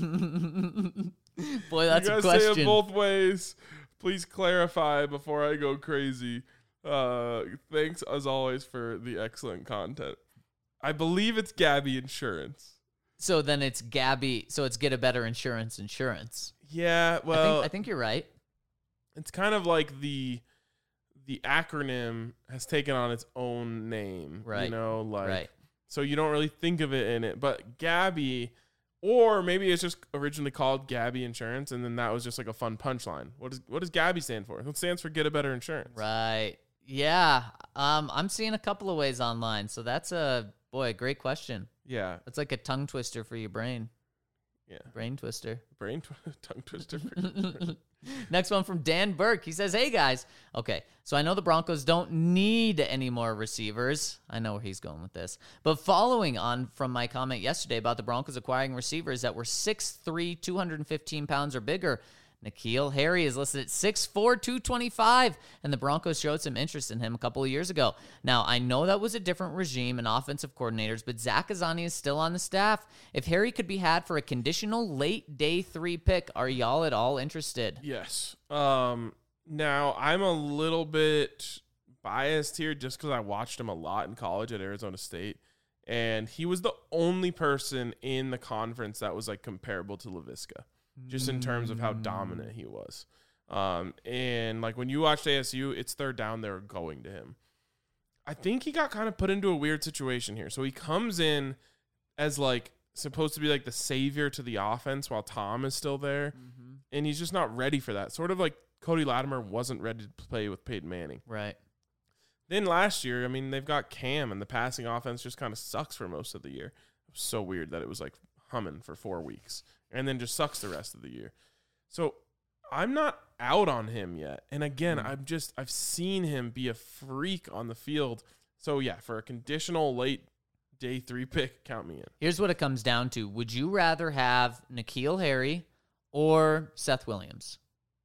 Boy, that's you a guys say it question. both ways. Please clarify before I go crazy. Uh, thanks, as always, for the excellent content. I believe it's Gabby Insurance. So then it's Gabby. So it's get a better insurance insurance. Yeah, I well, think, I think you're right. it's kind of like the the acronym has taken on its own name. Right. You know, like Right. so you don't really think of it in it. But Gabby, or maybe it's just originally called Gabby Insurance, and then that was just like a fun punchline. What does what does Gabby stand for? It stands for Get a Better Insurance. Right. Yeah. Um, I'm seeing a couple of ways online. So that's a boy, a great question. Yeah. That's like a tongue twister for your brain. Yeah. Brain twister. Brain tw- tongue twister. Next one from Dan Burke. He says, hey, guys. Okay, so I know the Broncos don't need any more receivers. I know where he's going with this. But following on from my comment yesterday about the Broncos acquiring receivers that were six three, two hundred fifteen pounds or bigger, N'Keal Harry is listed at six four, two twenty-five, and the Broncos showed some interest in him a couple of years ago. Now, I know that was a different regime and offensive coordinators, but Zach Azzani is still on the staff. If Harry could be had for a conditional late day three pick, are y'all at all interested? Yes. Um. Now I'm a little bit biased here just because I watched him a lot in college at Arizona State, and he was the only person in the conference that was like comparable to Laviska, just in terms of how dominant he was. Um. And like when you watched A S U, it's third down, they're going to him. I think he got kind of put into a weird situation here. So he comes in as like supposed to be like the savior to the offense while Tom is still there. Mm-hmm. And he's just not ready for that. Sort of like Cody Latimer wasn't ready to play with Peyton Manning. Right. Then last year, I mean, they've got Cam, and the passing offense just kind of sucks for most of the year. It was so weird that it was like humming for four weeks and then just sucks the rest of the year. So I'm not out on him yet. And again, Mm. I'm just, I've seen him be a freak on the field. So yeah, for a conditional late day three pick, count me in. Here's what it comes down to. Would you rather have N'Keal Harry or Seth Williams?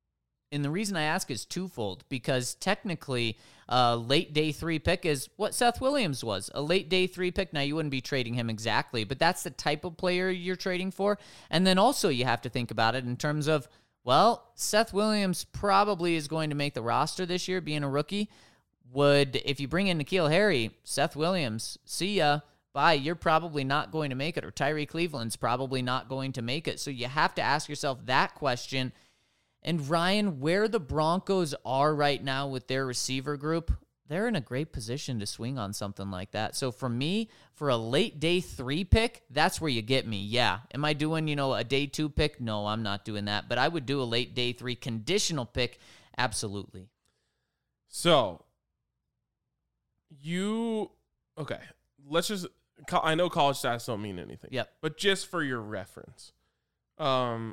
And the reason I ask is twofold, because technically a late day three pick is what Seth Williams was, a late day three pick. Now, you wouldn't be trading him exactly, but that's the type of player you're trading for. And then also you have to think about it in terms of, well, Seth Williams probably is going to make the roster this year being a rookie. Would, if you bring in N'Keal Harry, Seth Williams, see ya, bye, you're probably not going to make it, or Tyree Cleveland's probably not going to make it. So you have to ask yourself that question. And Ryan, where the Broncos are right now with their receiver group, they're in a great position to swing on something like that. So for me, for a late day three pick, that's where you get me. Yeah. Am I doing, you know, a day two pick? No, I'm not doing that. But I would do a late day three conditional pick. Absolutely. So you Okay, let's just. I know college stats don't mean anything. Yep. But just for your reference, um,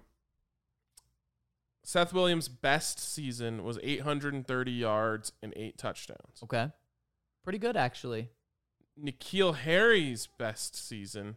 Seth Williams' best season was eight hundred thirty yards and eight touchdowns. Okay. Pretty good, actually. N'Keal Harry's best season,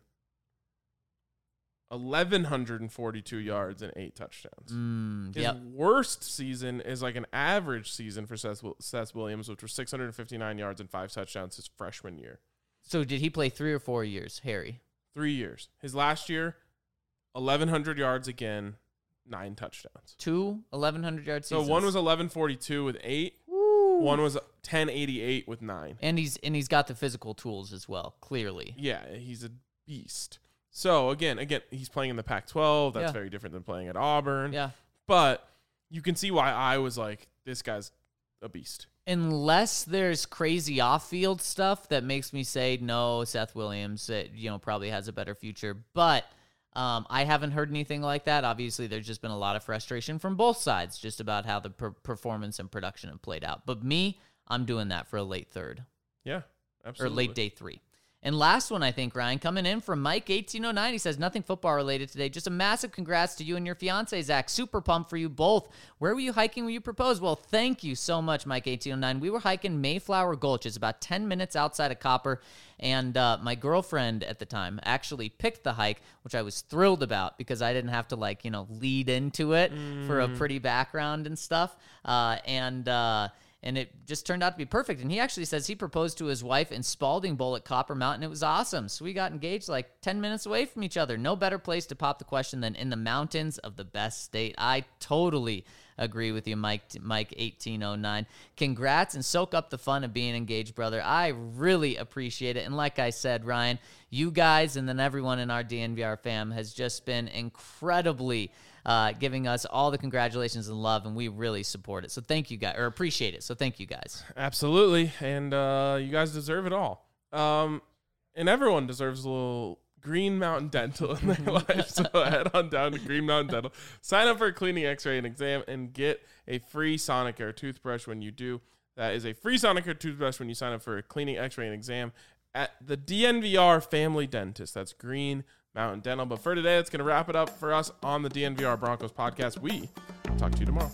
one thousand one hundred forty-two yards and eight touchdowns. Mm, His yep. worst season is like an average season for Seth, Seth Williams, which was six hundred fifty-nine yards and five touchdowns his freshman year. So did he play three or four years, Harry? Three years. His last year, eleven hundred yards again, nine touchdowns. Two eleven hundred yard So seasons. one was eleven forty-two with eight. Woo. One was ten eighty-eight with nine. And he's and he's got the physical tools as well, clearly. Yeah, he's a beast. So again, again, he's playing in the Pac twelve. That's Yeah. very different than playing at Auburn. Yeah. But you can see why I was like, this guy's a beast. Unless there's crazy off-field stuff that makes me say no, Seth Williams, uh, you know, probably has a better future. But um, I haven't heard anything like that. Obviously, there's just been a lot of frustration from both sides just about how the per- performance and production have played out. But me, I'm doing that for a late third Yeah, or absolutely. late day three. And last one, I think, Ryan, coming in from Mike eighteen oh nine. He says, nothing football related today. Just a massive congrats to you and your fiance, Zach. Super pumped for you both. Where were you hiking when you proposed? Well, thank you so much, Mike eighteen oh nine. We were hiking Mayflower Gulch. It's about ten minutes outside of Copper. And uh, my girlfriend at the time actually picked the hike, which I was thrilled about because I didn't have to, like, you know, lead into it mm. for a pretty background and stuff. Uh, and, uh, And it just turned out to be perfect. And he actually says he proposed to his wife in Spalding Bowl at Copper Mountain. It was awesome. So we got engaged like ten minutes away from each other. No better place to pop the question than in the mountains of the best state. I totally agree with you, Mike Mike eighteen oh nine. Congrats and soak up the fun of being engaged, brother. I really appreciate it. And like I said, Ryan, you guys and then everyone in our D N V R fam has just been incredibly Uh, giving us all the congratulations and love, and we really support it. So thank you guys, or appreciate it. So thank you guys. Absolutely, and uh, you guys deserve it all. Um, and everyone deserves a little Green Mountain Dental in their life. So head on down to Green Mountain Dental, sign up for a cleaning, X-ray, and exam, and get a free Sonicare toothbrush when you do. That is a free Sonicare toothbrush when you sign up for a cleaning, X-ray, and exam at the D N V R Family Dentist. That's Green Mountain Dental. But for today, that's going to wrap it up for us on the D N V R Broncos podcast. We will talk to you tomorrow.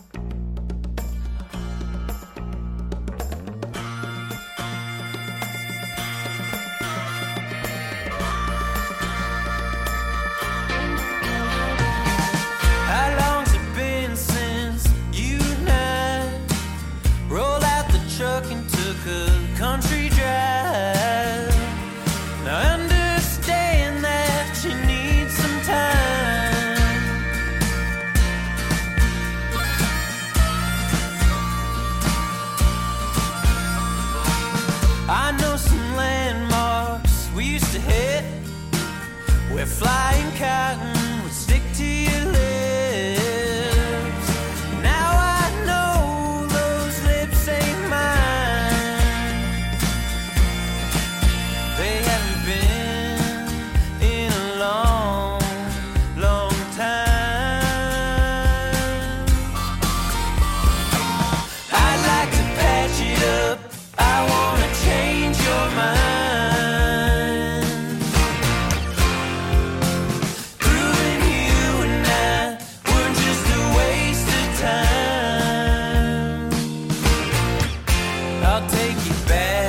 How long's it been since you and I rolled out the truck and took a country drive? Now I understand that you need some time. I know some landmarks we used to hit where flying cotton would stick to your lips. Now I know those lips ain't mine. They haven't been in a long, long time. I'd like to patch it up. I wanna change your mind. Proving you and I were just a waste of time. I'll take you back